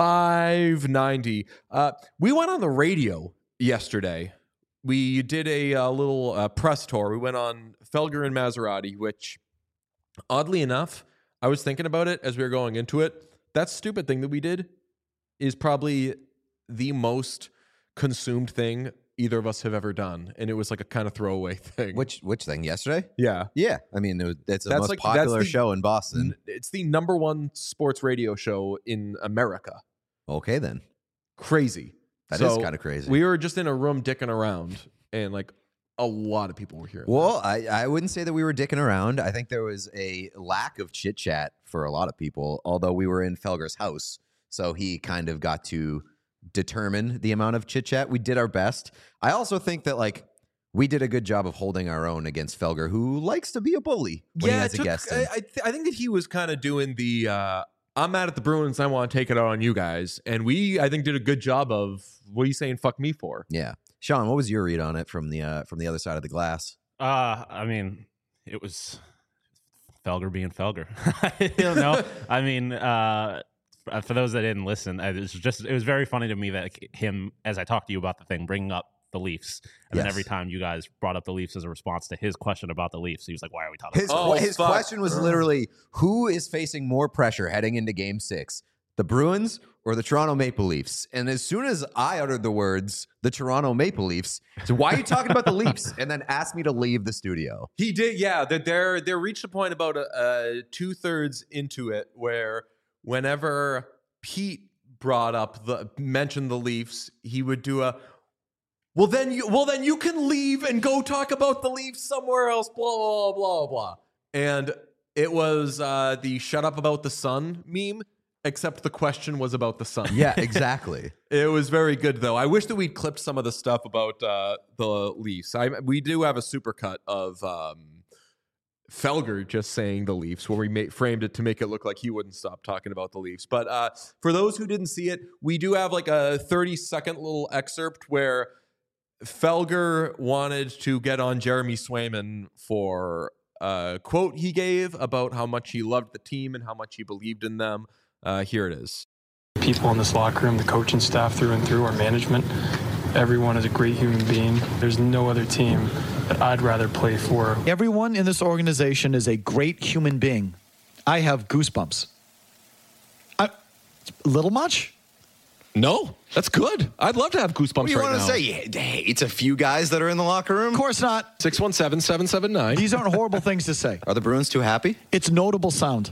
Speaker 1: 590. We went on the radio yesterday. We did a little press tour. We went on Felger and Maserati, which, oddly enough, I was thinking about it as we were going into it. That stupid thing that we did is probably the most consumed thing either of us have ever done, and it was like a kind of throwaway thing.
Speaker 2: Which thing? Yesterday?
Speaker 1: Yeah.
Speaker 2: I mean, that's the most popular show in Boston.
Speaker 1: It's the number one sports radio show in America.
Speaker 2: Okay, then.
Speaker 1: Crazy.
Speaker 2: That is kind of crazy.
Speaker 1: We were just in a room dicking around, and like a lot of people were hearing.
Speaker 2: Well, I wouldn't say that we were dicking around. I think there was a lack of chit chat for a lot of people, although we were in Felger's house, so he kind of got to determine the amount of chit chat. We did our best. I also think that like we did a good job of holding our own against Felger, who likes to be a bully when he has a guest.
Speaker 1: I think that he was kind of doing the I'm mad at the Bruins. I want to take it out on you guys, and we I think did a good job of what are you saying? Fuck me for?
Speaker 2: Yeah, Sean, what was your read on it from the other side of the glass?
Speaker 3: I mean, it was Felger being Felger. I don't know. I mean, for those that didn't listen, it was very funny to me that him, as I talked to you about the thing, bringing up the Leafs, and then every time you guys brought up the Leafs as a response to his question about the Leafs, he was like, "Why are we talking?"
Speaker 2: His question was literally, "Who is facing more pressure heading into Game 6, the Bruins or the Toronto Maple Leafs?" And as soon as I uttered the words, "the Toronto Maple Leafs," so why are you talking about the Leafs? And then asked me to leave the studio.
Speaker 1: He did, yeah. That they reached a point about 2/3 into it where whenever Pete mentioned the Leafs, he would do a well then you can leave and go talk about the Leafs somewhere else, blah blah blah blah. And it was the shut up about the sun meme, except the question was about the sun.
Speaker 2: Yeah, exactly.
Speaker 1: It was very good though. I wish that we'd clipped some of the stuff about the Leafs. We do have a supercut of Felger just saying the Leafs, where we framed it to make it look like he wouldn't stop talking about the Leafs. But for those who didn't see it, we do have like a 30-second little excerpt where Felger wanted to get on Jeremy Swayman for a quote he gave about how much he loved the team and how much he believed in them. Here it is.
Speaker 7: People in this locker room, the coaching staff through and through, our management, Everyone is a great human being. There's no other team that I'd rather play for.
Speaker 8: Everyone in this organization is a great human being. I have goosebumps. A little much?
Speaker 9: No, that's good. I'd love to have goosebumps
Speaker 2: What do you
Speaker 9: right
Speaker 2: want
Speaker 9: now.
Speaker 2: to say? It's a few guys that are in the locker room.
Speaker 8: Of course not.
Speaker 9: 617-779.
Speaker 8: These aren't horrible things to say.
Speaker 2: Are the Bruins too happy?
Speaker 8: It's notable sound.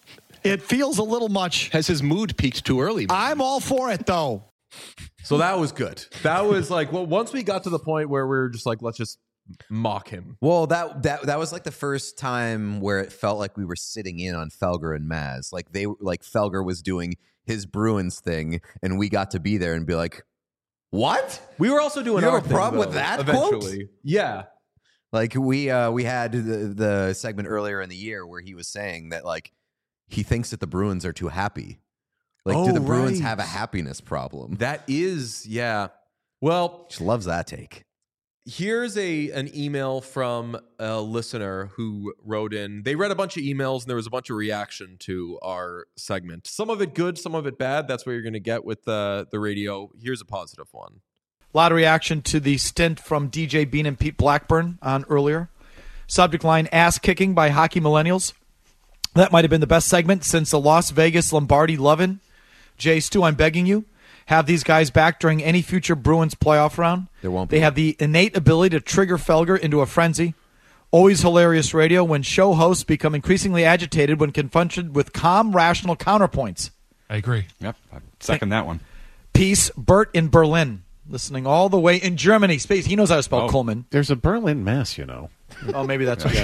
Speaker 8: It feels a little much.
Speaker 9: Has his mood peaked too early?
Speaker 8: I'm all for it, though.
Speaker 1: So that was good. That was like, well, once we got to the point where we were just like, let's just mock him.
Speaker 2: Well, that was like the first time where it felt like we were sitting in on Felger and Maz. Like Felger was doing his Bruins thing, and we got to be there and be like, "What?"
Speaker 1: We were also doing
Speaker 2: You
Speaker 1: our
Speaker 2: have a
Speaker 1: thing,
Speaker 2: problem with
Speaker 1: though,
Speaker 2: that
Speaker 1: eventually.
Speaker 2: quote?
Speaker 1: Yeah.
Speaker 2: Like we had the segment earlier in the year where he was saying that like he thinks that the Bruins are too happy. Like, do the Bruins
Speaker 1: right.
Speaker 2: have a happiness problem?
Speaker 1: That is, yeah. Well,
Speaker 2: She loves that take.
Speaker 1: here's an email from a listener who wrote in. They read a bunch of emails and there was a bunch of reaction to our segment. Some of it good, some of it bad. That's what you're going to get with the radio. Here's a positive one.
Speaker 8: A lot of reaction to the stint from DJ Bean and Pete Blackburn on earlier. Subject line, ass kicking by hockey millennials. That might have been the best segment since the Las Vegas Lombardi Lovin'. Jay Stu, I'm begging you, have these guys back during any future Bruins playoff round.
Speaker 2: There won't be.
Speaker 8: They have the innate ability to trigger Felger into a frenzy. Always hilarious radio when show hosts become increasingly agitated when confronted with calm, rational counterpoints.
Speaker 10: I agree. Yep. I second that one.
Speaker 8: Peace, Bert in Berlin. Listening all the way in Germany. Space. He knows how to spell Coleman.
Speaker 11: There's a Berlin, Mass, you know.
Speaker 8: Oh, maybe that's what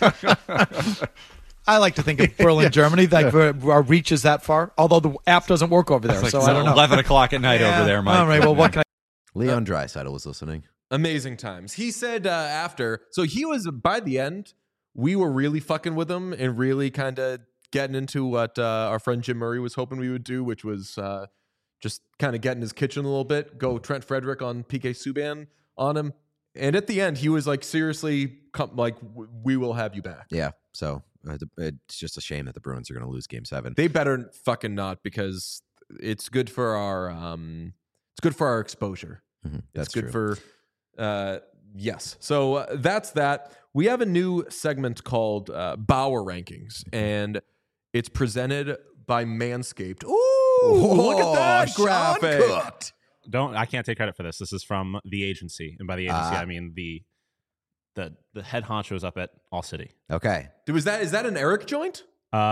Speaker 8: that is. I like to think of Berlin, Germany. Like our reach is that far. Although the app doesn't work over there,
Speaker 10: It's
Speaker 8: so
Speaker 10: like
Speaker 8: I don't know.
Speaker 10: 11 o'clock at night over there, Mike.
Speaker 8: All right. Well, what can I?
Speaker 2: Leon Draisaitl was listening.
Speaker 1: Amazing times. He said after, so he was, by the end, we were really fucking with him and really kind of getting into what our friend Jim Murray was hoping we would do, which was just kind of get in his kitchen a little bit, go Trent Frederick on PK Subban on him. And at the end, he was like, seriously, we will have you back.
Speaker 2: Yeah. So it's just a shame that the Bruins are going to lose Game 7.
Speaker 1: They better fucking not, because it's good for our exposure.
Speaker 2: Mm-hmm.
Speaker 1: It's good for yes. So that's that. We have a new segment called Bauer Rankings, and it's presented by Manscaped. Ooh, look at that graphic.
Speaker 3: I can't take credit for this. This is from the agency, and by the agency I mean the head honchos up at All City.
Speaker 2: Okay.
Speaker 1: Is that an Eric joint?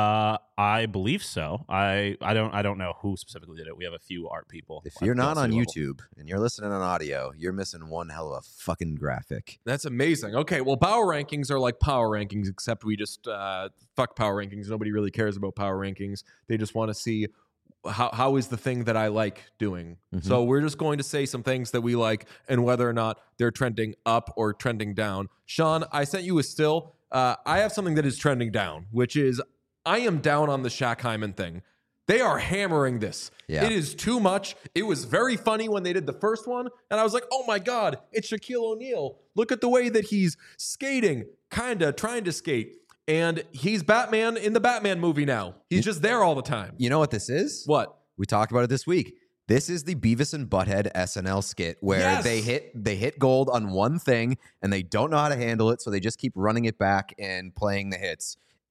Speaker 3: I believe so. I don't know who specifically did it. We have a few art people.
Speaker 2: If you're not on YouTube and you're listening on audio, you're missing one hell of a fucking graphic.
Speaker 1: That's amazing. Okay, well, Power Rankings are like Power Rankings, except we just fuck Power Rankings. Nobody really cares about Power Rankings. They just want to see how is the thing that I like doing.
Speaker 2: Mm-hmm.
Speaker 1: So we're just going to say some things that we like and whether or not they're trending up or trending down. Sean, I sent you a still. I have something that is trending down, which is I am down on the Shaq Hyman thing. They are hammering this.
Speaker 2: Yeah.
Speaker 1: It is too much. It was very funny when they did the first one, and I was like, oh my God, it's Shaquille O'Neal. Look at the way that he's skating, kind of trying to skate. And he's Batman in the Batman movie now. He's just there all the time.
Speaker 2: You know what this is?
Speaker 1: What?
Speaker 2: We talked about it this week. This is the Beavis and Butthead SNL skit where
Speaker 1: Yes!
Speaker 2: they hit gold on one thing and they don't know how to handle it, so they just keep running it back and playing the hits.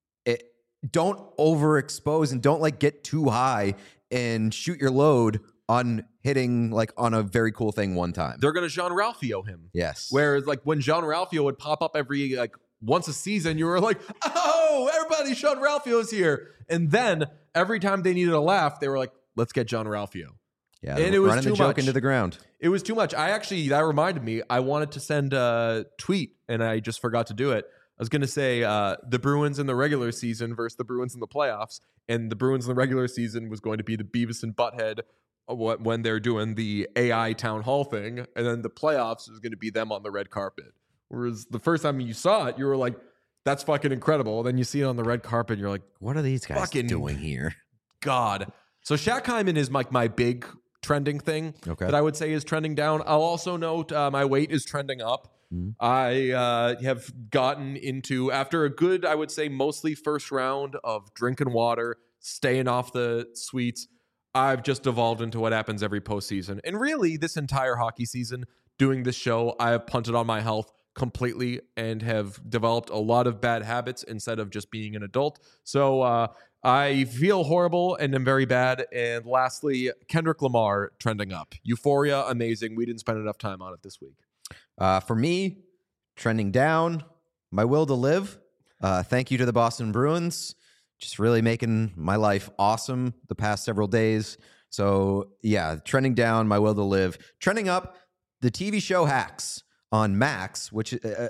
Speaker 2: Don't overexpose and don't like get too high and shoot your load on hitting like on a very cool thing one time.
Speaker 1: They're going to Jean Ralphio him.
Speaker 2: Yes.
Speaker 1: Whereas like when Jean Ralphio would pop up every like once a season, you were like, oh, everybody, Jean Ralphio's here. And then every time they needed a laugh, they were like, let's get Jean Ralphio.
Speaker 2: Yeah,
Speaker 1: and it was
Speaker 2: running
Speaker 1: too
Speaker 2: the joke
Speaker 1: much.
Speaker 2: into the ground.
Speaker 1: It was too much. That reminded me, I wanted to send a tweet and I just forgot to do it. I was going to say the Bruins in the regular season versus the Bruins in the playoffs. And the Bruins in the regular season was going to be the Beavis and Butthead when they're doing the AI town hall thing. And then the playoffs is going to be them on the red carpet. Whereas the first time you saw it, you were like, that's fucking incredible. Then you see it on the red carpet and you're like,
Speaker 2: what are these guys
Speaker 1: fucking
Speaker 2: doing here?
Speaker 1: God. So Shaq Hyman is like my big trending thing that I would say is trending down. I'll also note my weight is trending up.
Speaker 2: Mm-hmm.
Speaker 1: I have gotten into, after a good, I would say mostly first round of drinking water, staying off the sweets, I've just devolved into what happens every postseason. And really, this entire hockey season, doing this show, I have punted on my health completely and have developed a lot of bad habits instead of just being an adult. So I feel horrible and am very bad. And lastly, Kendrick Lamar trending up. Euphoria, amazing. We didn't spend enough time on it this week.
Speaker 2: For me, trending down, My Will to Live. Thank you to the Boston Bruins. Just really making my life awesome the past several days. So, yeah, trending down, My Will to Live. Trending up, the TV show Hacks on Max, which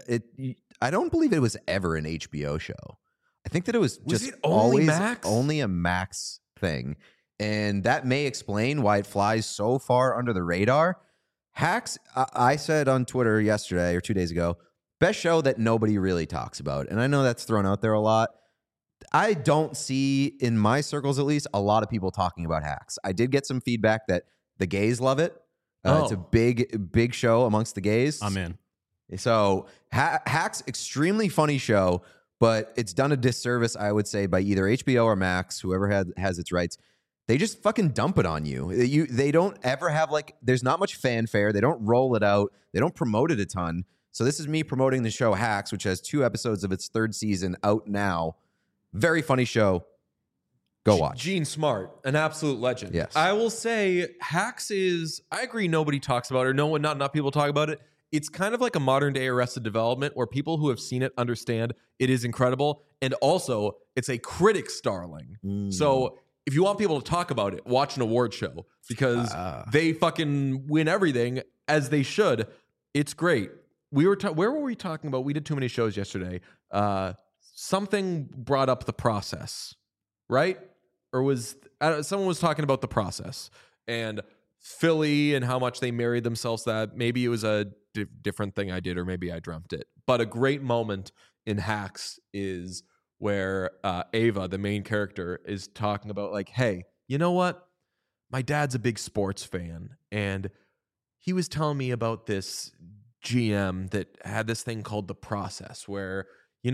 Speaker 2: I don't believe it was ever an HBO show. I think that it was just
Speaker 1: it only
Speaker 2: always
Speaker 1: Max?
Speaker 2: only a Max thing. And that may explain why it flies so far under the radar. Hacks, I said on Twitter yesterday or 2 days ago, best show that nobody really talks about. And I know that's thrown out there a lot. I don't see, in my circles at least, a lot of people talking about Hacks. I did get some feedback that the gays love it. It's a big show amongst the gays.
Speaker 3: I'm in.
Speaker 2: So Hacks, extremely funny show, but it's done a disservice, I would say, by either HBO or Max, whoever has its rights. They just fucking dump it on you. They don't ever have, there's not much fanfare. They don't roll it out. They don't promote it a ton. So this is me promoting the show Hacks, which has 2 episodes of its 3rd season out now. Very funny show. Go watch.
Speaker 1: Gene Smart, an absolute legend.
Speaker 2: Yes.
Speaker 1: I will say Hacks is, I agree, nobody talks about it, or not enough people talk about it. It's kind of like a modern day Arrested Development where people who have seen it understand it is incredible. And also, it's a critic's darling. So if you want people to talk about it, watch an award show because they fucking win everything as they should. It's great. Where were we talking about? We did too many shows yesterday. Something brought up The Process, right? Or was someone was talking about The Process and Philly and how much they married themselves. That maybe it was a different thing I did, or maybe I dreamt it. But a great moment in Hacks is where Ava, the main character, is talking about hey, you know what? My dad's a big sports fan, and he was telling me about this GM that had this thing called The Process, where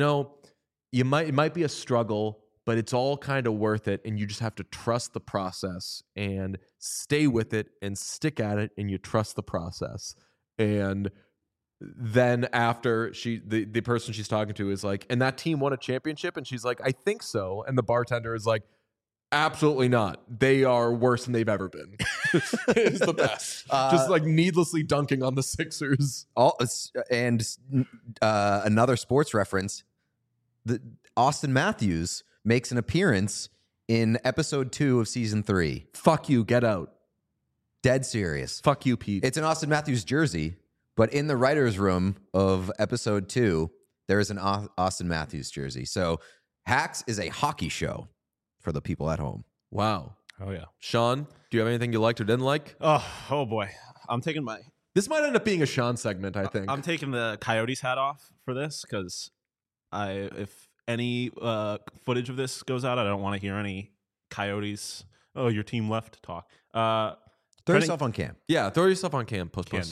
Speaker 1: it might be a struggle, but it's all kind of worth it, and you just have to trust the process and stay with it and stick at it, and you trust the process. And then after the person she's talking to is like, and that team won a championship, and she's like, I think so. And the bartender is like, absolutely not. They are worse than they've ever been. It's the best. Just needlessly dunking on the Sixers.
Speaker 2: And another sports reference, Austin Matthews makes an appearance in episode 2 of season 3.
Speaker 1: Fuck you, get out.
Speaker 2: Dead serious.
Speaker 1: Fuck you, Pete.
Speaker 2: It's an Austin Matthews jersey, but in the writer's room of episode 2, there is an Austin Matthews jersey. So Hacks is a hockey show for the people at home.
Speaker 1: Wow.
Speaker 3: Oh, yeah.
Speaker 1: Sean, do you have anything you liked or didn't like?
Speaker 3: Oh boy. I'm taking
Speaker 1: This might end up being a Sean segment, I think.
Speaker 3: I'm taking the Coyotes hat off for this because if any footage of this goes out, I don't want to hear any Coyotes, your team left talk.
Speaker 2: Throw yourself on cam.
Speaker 1: Yeah, throw yourself on cam.
Speaker 3: Can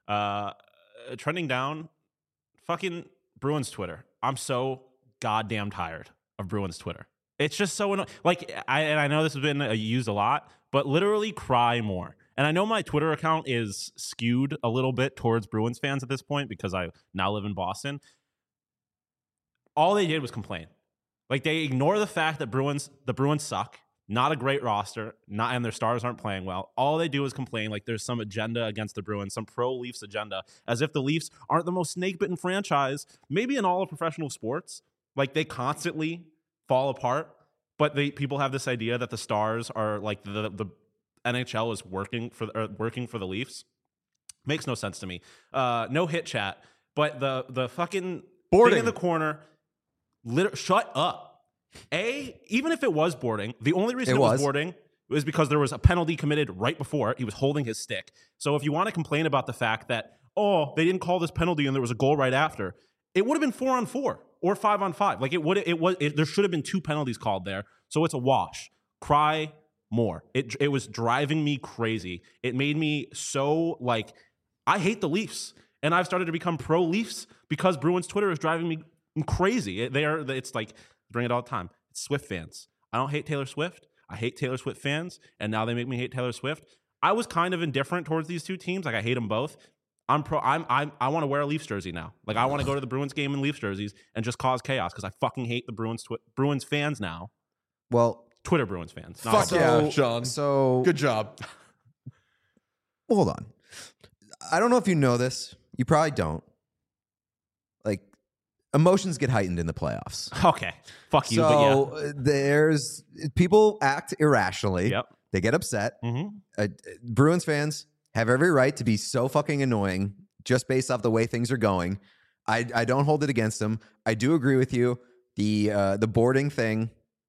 Speaker 3: do. Trending down, fucking Bruins Twitter. I'm so goddamn tired of Bruins Twitter. It's just so annoying. I know this has been used a lot, but literally cry more. And I know my Twitter account is skewed a little bit towards Bruins fans at this point because I now live in Boston. All they did was complain. They ignore the fact that the Bruins suck, not a great roster, and their stars aren't playing well. All they do is complain there's some agenda against the Bruins, some pro-Leafs agenda, as if the Leafs aren't the most snake-bitten franchise, maybe in all of professional sports. They constantly fall apart, but people have this idea that the stars are the NHL is working for the Leafs. Makes no sense to me. No hit chat, but the fucking
Speaker 1: boarding
Speaker 3: thing in the corner. Shut up. Even if it was boarding, the only reason it was boarding was because there was a penalty committed right before it. He was holding his stick. So if you want to complain about the fact that they didn't call this penalty and there was a goal right after, it would have been 4-on-4 or 5-on-5. There should have been 2 penalties called there. So it's a wash. Cry more. It was driving me crazy. It made me so I hate the Leafs, and I've started to become pro Leafs because Bruins Twitter is driving me crazy. It's bring it all the time. It's Swift fans. I don't hate Taylor Swift. I hate Taylor Swift fans, and now they make me hate Taylor Swift. I was kind of indifferent towards these two teams. Like, I hate them both. I want to wear a Leafs jersey now. Like, I want to go to the Bruins game in Leafs jerseys and just cause chaos because I fucking hate the Bruins fans now.
Speaker 2: Well,
Speaker 3: Twitter Bruins fans.
Speaker 1: Fuck yeah, Sean.
Speaker 2: So
Speaker 1: good job.
Speaker 2: Hold on. I don't know if you know this. You probably don't. Like, emotions get heightened in the playoffs.
Speaker 3: Okay. Fuck you,
Speaker 2: so
Speaker 3: but yeah.
Speaker 2: There's people act irrationally.
Speaker 3: Yep.
Speaker 2: They get upset.
Speaker 3: Mm-hmm.
Speaker 2: Bruins fans have every right to be so fucking annoying just based off the way things are going. I don't hold it against them. I do agree with you. The boarding thing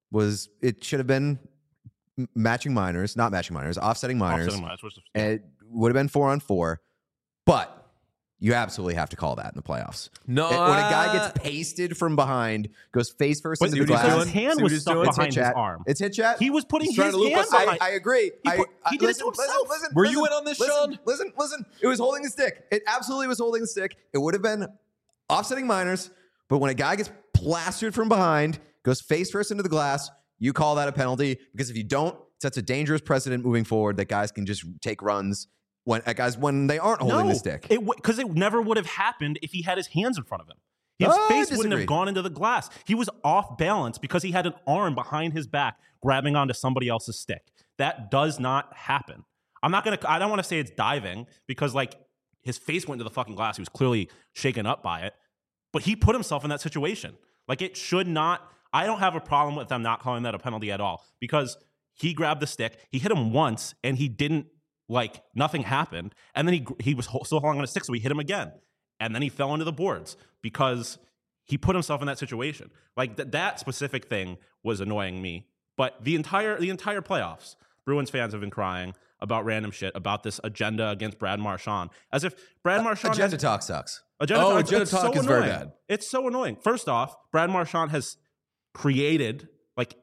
Speaker 2: it should have been offsetting minors.
Speaker 3: Offsetting minors,
Speaker 2: It would have been 4-on-4, but you absolutely have to call that in the playoffs.
Speaker 1: No,
Speaker 2: when a guy gets pasted from behind, goes face first into the glass.
Speaker 3: His hand was stuck behind his arm.
Speaker 2: It's hit chat.
Speaker 3: He was putting his hand
Speaker 2: behind. I agree.
Speaker 3: He did it to himself.
Speaker 1: Were you in on this, Sean?
Speaker 2: Listen. It was holding the stick. It absolutely was holding the stick. It would have been offsetting minors, but when a guy gets plastered from behind, goes face first into the glass, you call that a penalty, because if you don't, it sets a dangerous precedent moving forward that guys can just take runs when they aren't holding the stick.
Speaker 3: Because it never would have happened if he had his hands in front of him. His face wouldn't have gone into the glass. He was off balance because he had an arm behind his back grabbing onto somebody else's stick. That does not happen. I don't want to say it's diving because, like, his face went into the fucking glass. He was clearly shaken up by it, but he put himself in that situation. Like, it should not. I don't have a problem with them not calling that a penalty at all, because he grabbed the stick. He hit him once and he didn't, like, nothing happened. And then he was still holding on a stick, so we hit him again. And then he fell into the boards because he put himself in that situation. Like, that specific thing was annoying me. But the entire playoffs, Bruins fans have been crying about random shit, about this agenda against Brad Marchand, as if Brad Marchand
Speaker 2: agenda talk sucks.
Speaker 1: Agenda talk is very bad.
Speaker 3: It's so annoying. First off, Brad Marchand has created, like,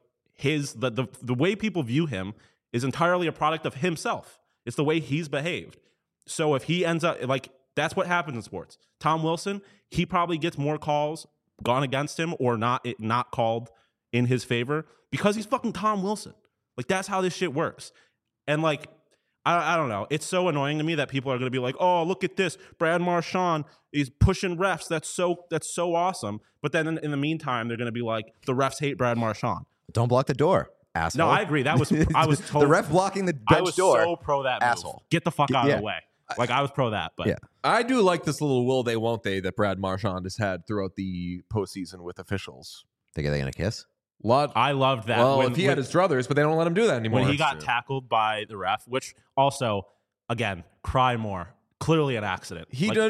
Speaker 3: the way people view him is entirely a product of himself. It's the way he's behaved. So if he ends up, like, that's what happens in sports. Tom Wilson, he probably gets more calls gone against him or not called in his favor because he's fucking Tom Wilson. Like, that's how this shit works. And, like, I don't know. It's so annoying to me that people are going to be like, oh, look at this. Brad Marchand is pushing refs. That's so awesome. But then in the meantime, they're going to be like, the refs hate Brad Marchand.
Speaker 2: Don't block the door, asshole.
Speaker 3: No, I agree. I was totally,
Speaker 2: the ref blocking the bench door.
Speaker 3: I was so pro that move.
Speaker 2: Asshole.
Speaker 3: Get the fuck out of the way. Like, I was pro that, but
Speaker 2: yeah.
Speaker 1: I do like this little will they won't they that Brad Marchand has had throughout the postseason with officials.
Speaker 2: Think are they gonna kiss?
Speaker 3: I loved that.
Speaker 1: Well, if he had his druthers, but they don't let him do that anymore.
Speaker 3: When he got tackled by the ref, which also, again, cry more. Clearly an accident.
Speaker 1: I think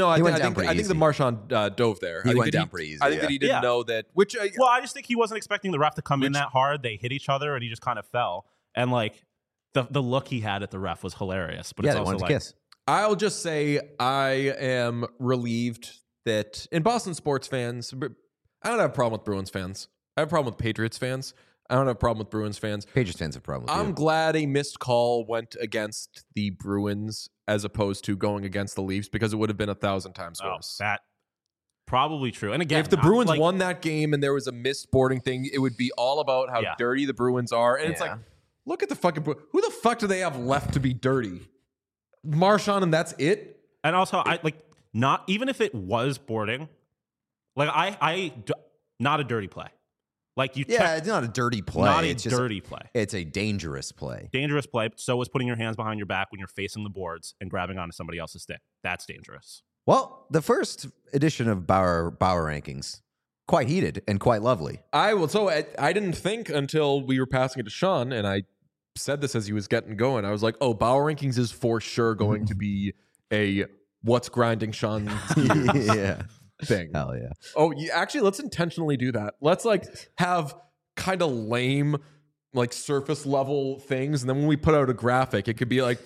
Speaker 1: the Marchand dove there.
Speaker 2: He went down pretty easy.
Speaker 1: I think that he didn't know that.
Speaker 3: I just think he wasn't expecting the ref to come in that hard. They hit each other, and he just kind of fell. And, like, the look he had at the ref was hilarious. But it's also
Speaker 2: wanted
Speaker 3: like,
Speaker 2: to kiss.
Speaker 1: I'll just say I am relieved that in Boston sports fans, I don't have a problem with Bruins fans. I have a problem with Patriots fans. I don't have a problem with Bruins fans.
Speaker 2: Patriots fans have a problem with
Speaker 1: I'm glad a missed call went against the Bruins as opposed to going against the Leafs, because it would have been 1,000 times worse.
Speaker 3: That probably true. And again,
Speaker 1: if the Bruins won that game and there was a missed boarding thing, it would be all about how dirty the Bruins are. And it's like, look at the fucking who the fuck do they have left to be dirty? Marchand, and that's it.
Speaker 3: And also, not even if it was boarding, like not a dirty play. Like,
Speaker 2: it's not a dirty play.
Speaker 3: Not a dirty play.
Speaker 2: It's a dangerous play.
Speaker 3: Dangerous play. But so is putting your hands behind your back when you're facing the boards and grabbing onto somebody else's stick. That's dangerous.
Speaker 2: Well, the first edition of Bauer rankings, quite heated and quite lovely.
Speaker 1: I didn't think until we were passing it to Sean, and I said this as he was getting going. I was like, oh, Bauer rankings is for sure going to be a what's grinding Sean's gears thing.
Speaker 2: Hell yeah.
Speaker 1: Oh, actually, let's intentionally do that. Let's have kind of lame, surface level things, and then when we put out a graphic, it could be like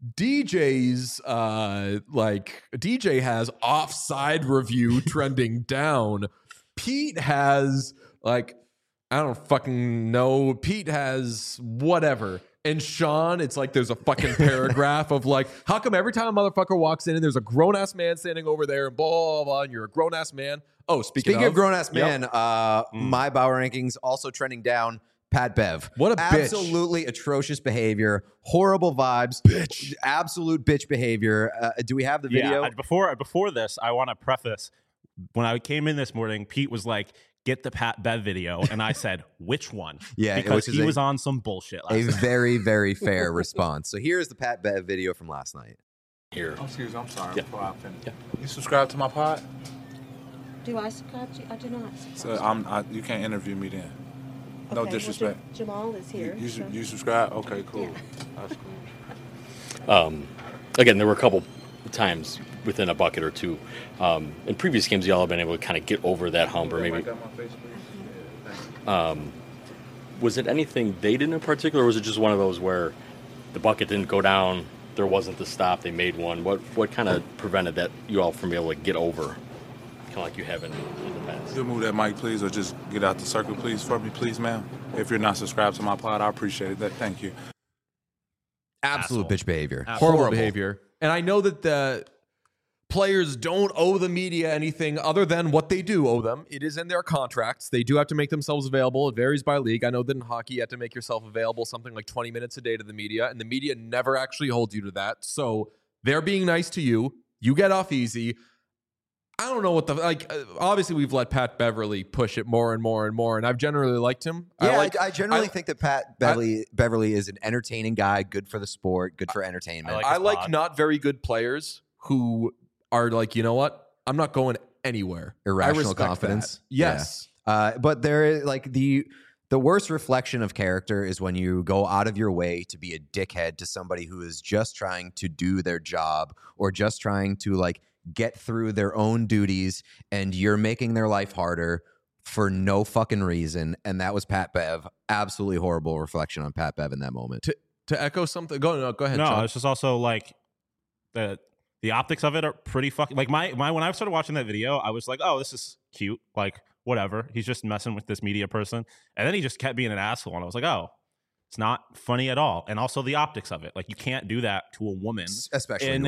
Speaker 1: DJ's DJ has offside review trending down. Pete has I don't fucking know. Pete has whatever. And Sean, it's like there's a fucking paragraph of how come every time a motherfucker walks in and there's a grown-ass man standing over there and blah, blah, blah, and you're a grown-ass man. Oh, speaking of
Speaker 2: grown-ass man, my Bauer rankings also trending down Pat Bev.
Speaker 1: What a bitch.
Speaker 2: Absolutely atrocious behavior, horrible vibes, absolute bitch behavior. Do we have the video?
Speaker 3: Yeah, before this, I want to preface, when I came in this morning, Pete was like, get the Pat Bev video. And I said, which one?
Speaker 2: Yeah,
Speaker 3: because he was on some bullshit last night.
Speaker 2: Very, very fair response. So here's the Pat Bev video from last night.
Speaker 12: Here.
Speaker 13: Oh, excuse me, I'm sorry.
Speaker 12: Yeah.
Speaker 13: Before I finish.
Speaker 12: Yeah.
Speaker 13: You subscribe to my pod?
Speaker 14: Do I subscribe to you? I do not subscribe.
Speaker 13: So you can't interview me then. No disrespect.
Speaker 14: Well, Jamal is here.
Speaker 13: You subscribe? Okay, cool.
Speaker 14: Yeah.
Speaker 13: That's cool.
Speaker 12: Again, there were a couple times within a bucket or two. In previous games, y'all have been able to kind of get over that hump, or maybe. Was it anything they did in particular, or was it just one of those where the bucket didn't go down, there wasn't the stop, they made one? What kind of prevented that you all from being able to get over, kind of like you have in the past?
Speaker 13: You'll move that mic, please, or just get out the circle, please, for me, please, ma'am. If you're not subscribed to my pod, I appreciate it. Thank you.
Speaker 2: Absolute bitch behavior.
Speaker 1: Horrible behavior. And I know that the players don't owe the media anything other than what they do owe them. It is in their contracts. They do have to make themselves available. It varies by league. I know that in hockey, you have to make yourself available something like 20 minutes a day to the media, and the media never actually holds you to that. So they're being nice to you. You get off easy. I don't know what obviously we've let Pat Beverly push it more and more and more, and I've generally liked him.
Speaker 2: Yeah, I generally think that Pat Beverly is an entertaining guy, good for the sport, good for entertainment.
Speaker 1: I like not very good players who are like, you know what? I'm not going anywhere.
Speaker 2: Irrational confidence.
Speaker 1: That. Yes.
Speaker 2: Yeah. But there is like the worst reflection of character is when you go out of your way to be a dickhead to somebody who is just trying to do their job or just trying to like get through their own duties, and you're making their life harder for no fucking reason. And that was Pat Bev. Absolutely horrible reflection on Pat Bev in that moment.
Speaker 1: To echo something, go ahead.
Speaker 3: No,
Speaker 1: John.
Speaker 3: it's just also like the optics of it are pretty fucking like my when I started watching that video, I was like, oh, this is cute, like whatever. He's just messing with this media person, and then he just kept being an asshole, and I was like, oh, it's not funny at all. And also the optics of it, like you can't do that to a woman,
Speaker 2: especially
Speaker 3: in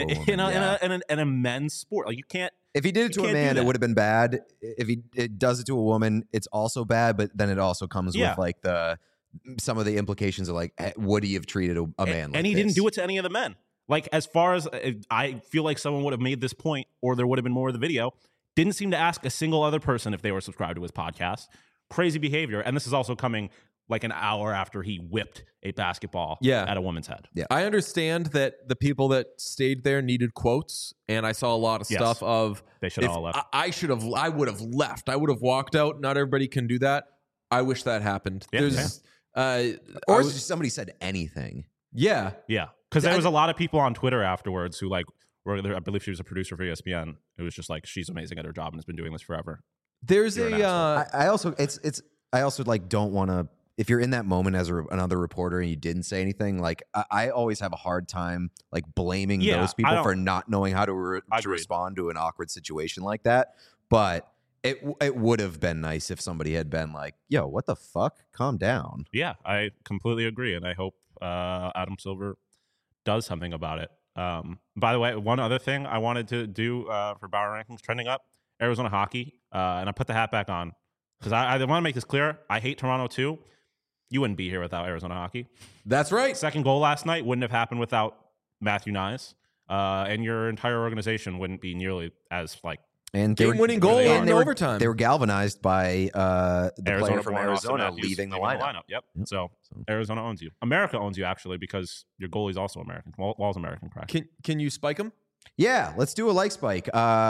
Speaker 3: a men's sport. Like you can't.
Speaker 2: If he did it to a man, it would have been bad. If it does it to a woman, it's also bad. But then it also comes with like some of the implications of like, would he have treated a man like
Speaker 3: and he
Speaker 2: this?
Speaker 3: didn't do it to any of the men. Like, as far as I feel like someone would have made this point, or there would have been more of the video, didn't seem to ask a single other person if they were subscribed to his podcast. Crazy behavior. And this is also coming like an hour after he whipped a basketball at a woman's head.
Speaker 2: Yeah.
Speaker 1: I understand that the people that stayed there needed quotes, and I saw a lot of stuff of
Speaker 3: they should have all left.
Speaker 1: I would have left. I would have walked out. Not everybody can do that. I wish that happened.
Speaker 2: Yeah, or somebody said anything.
Speaker 1: Yeah.
Speaker 3: Yeah. Because there was a lot of people on Twitter afterwards who like were there. I believe she was a producer for ESPN. It was just like, she's amazing at her job and has been doing this forever.
Speaker 1: There's
Speaker 2: I also like don't want to, if you're in that moment as another reporter and you didn't say anything, like I always have a hard time like blaming those people for not knowing how to respond to an awkward situation like that. But it would have been nice if somebody had been like, yo, what the fuck? Calm down.
Speaker 3: Yeah, I completely agree. And I hope Adam Silver does something about it. By the way, one other thing I wanted to do for Bauer Rankings trending up, Arizona hockey, and I put the hat back on because I want to make this clear. I hate Toronto too. You wouldn't be here without Arizona hockey.
Speaker 1: That's right.
Speaker 3: Second goal last night wouldn't have happened without Matthew Nyes, and your entire organization wouldn't be nearly as like
Speaker 2: and
Speaker 1: game-winning goal in overtime.
Speaker 2: They were galvanized by the
Speaker 3: Arizona
Speaker 2: player from Arizona leaving the lineup.
Speaker 3: Yep. So Arizona owns you. America owns you actually because your goalie's also American. Wall's American, correct?
Speaker 1: Can you spike him?
Speaker 2: Yeah, let's do a like spike.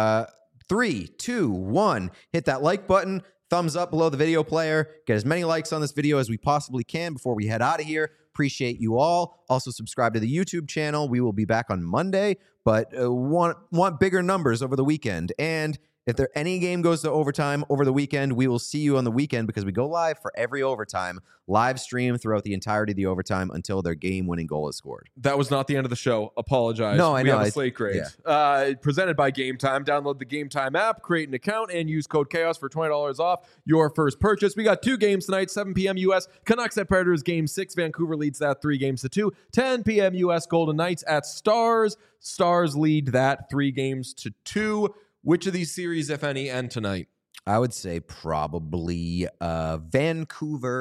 Speaker 2: 3, 2, 1. Hit that like button. Thumbs up below the video player. Get as many likes on this video as we possibly can before we head out of here. Appreciate you all. Also subscribe to the YouTube channel. We will be back on Monday, but want bigger numbers over the weekend. And if any game goes to overtime over the weekend, we will see you on the weekend because we go live for every overtime, live stream throughout the entirety of the overtime until their game-winning goal is scored.
Speaker 1: That was not the end of the show. Apologize.
Speaker 2: No, I know.
Speaker 1: We have a slate grade. Yeah. Presented by Game Time. Download the Game Time app, create an account, and use code CHAOS for $20 off your first purchase. We got 2 games tonight, 7 p.m. U.S. Canucks at Predators, Game 6. Vancouver leads that 3-2. 10 p.m. U.S. Golden Knights at Stars. Stars lead that 3-2. Which of these series, if any, end tonight?
Speaker 2: I would say probably Vancouver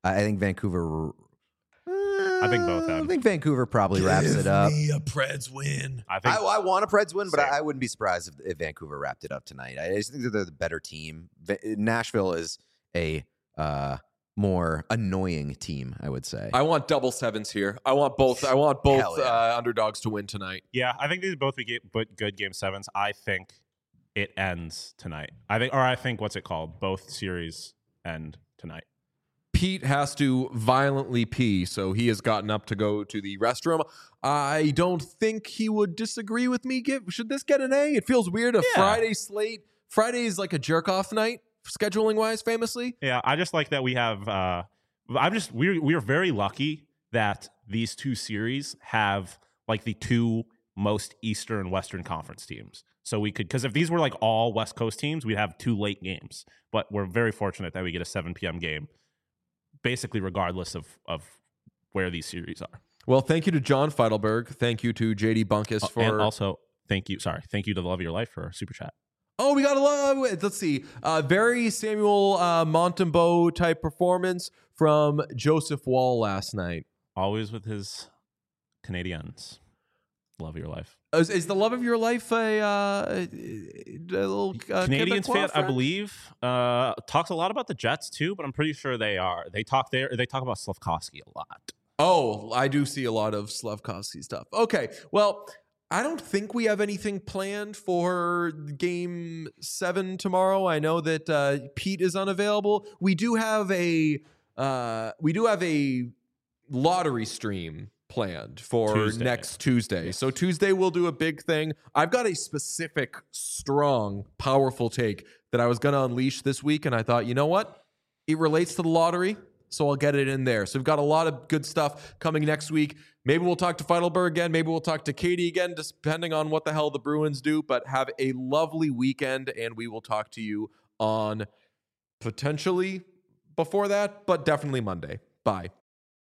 Speaker 2: I think Vancouver.
Speaker 3: I think both.
Speaker 2: I think Vancouver probably wraps it up.
Speaker 1: Give me a Preds win.
Speaker 2: I want a Preds win, but I wouldn't be surprised if Vancouver wrapped it up tonight. I just think that they're the better team. Nashville is a more annoying team, I would say.
Speaker 1: I want double sevens here. I want both underdogs to win tonight.
Speaker 3: Yeah, I think these both be good game sevens. I think it ends tonight. I think what's it called? Both series end tonight.
Speaker 1: Pete has to violently pee, so he has gotten up to go to the restroom. I don't think he would disagree with me. Should this get an A? It feels weird. Friday slate. Friday is like a jerk-off night, scheduling-wise, famously.
Speaker 3: Yeah, I just like that we have... we are very lucky that these two series have like the two most Eastern Western Conference teams. So we could... Because if these were like all West Coast teams, we'd have 2 late games. But we're very fortunate that we get a 7 p.m. game, basically regardless of where these series are.
Speaker 1: Well, thank you to John Feidelberg. Thank you to JD Bunkus for...
Speaker 3: And also, thank you to the Love of Your Life for Super Chat.
Speaker 1: Oh, we got to love it. Let's see. Very Samuel Montembeau type performance from Joseph Wall last night.
Speaker 3: Always with his Canadians. Love of Your Life.
Speaker 1: Is the Love of Your Life a little
Speaker 3: Canadians
Speaker 1: Quebecois
Speaker 3: fan?
Speaker 1: friend?
Speaker 3: I believe talks a lot about the Jets too, but I'm pretty sure they are. They talk about Slafkovsky a lot.
Speaker 1: Oh, I do see a lot of Slafkovsky stuff. Okay, well, I don't think we have anything planned for Game 7 tomorrow. I know that Pete is unavailable. We do have a lottery stream planned for next Tuesday. Yes. So Tuesday we'll do a big thing. I've got a specific, strong, powerful take that I was going to unleash this week, and I thought, you know what? It relates to the lottery, so I'll get it in there. So we've got a lot of good stuff coming next week. Maybe we'll talk to Feidelberg again. Maybe we'll talk to Katie again, just depending on what the hell the Bruins do. But have a lovely weekend, and we will talk to you on potentially before that, but definitely Monday. Bye.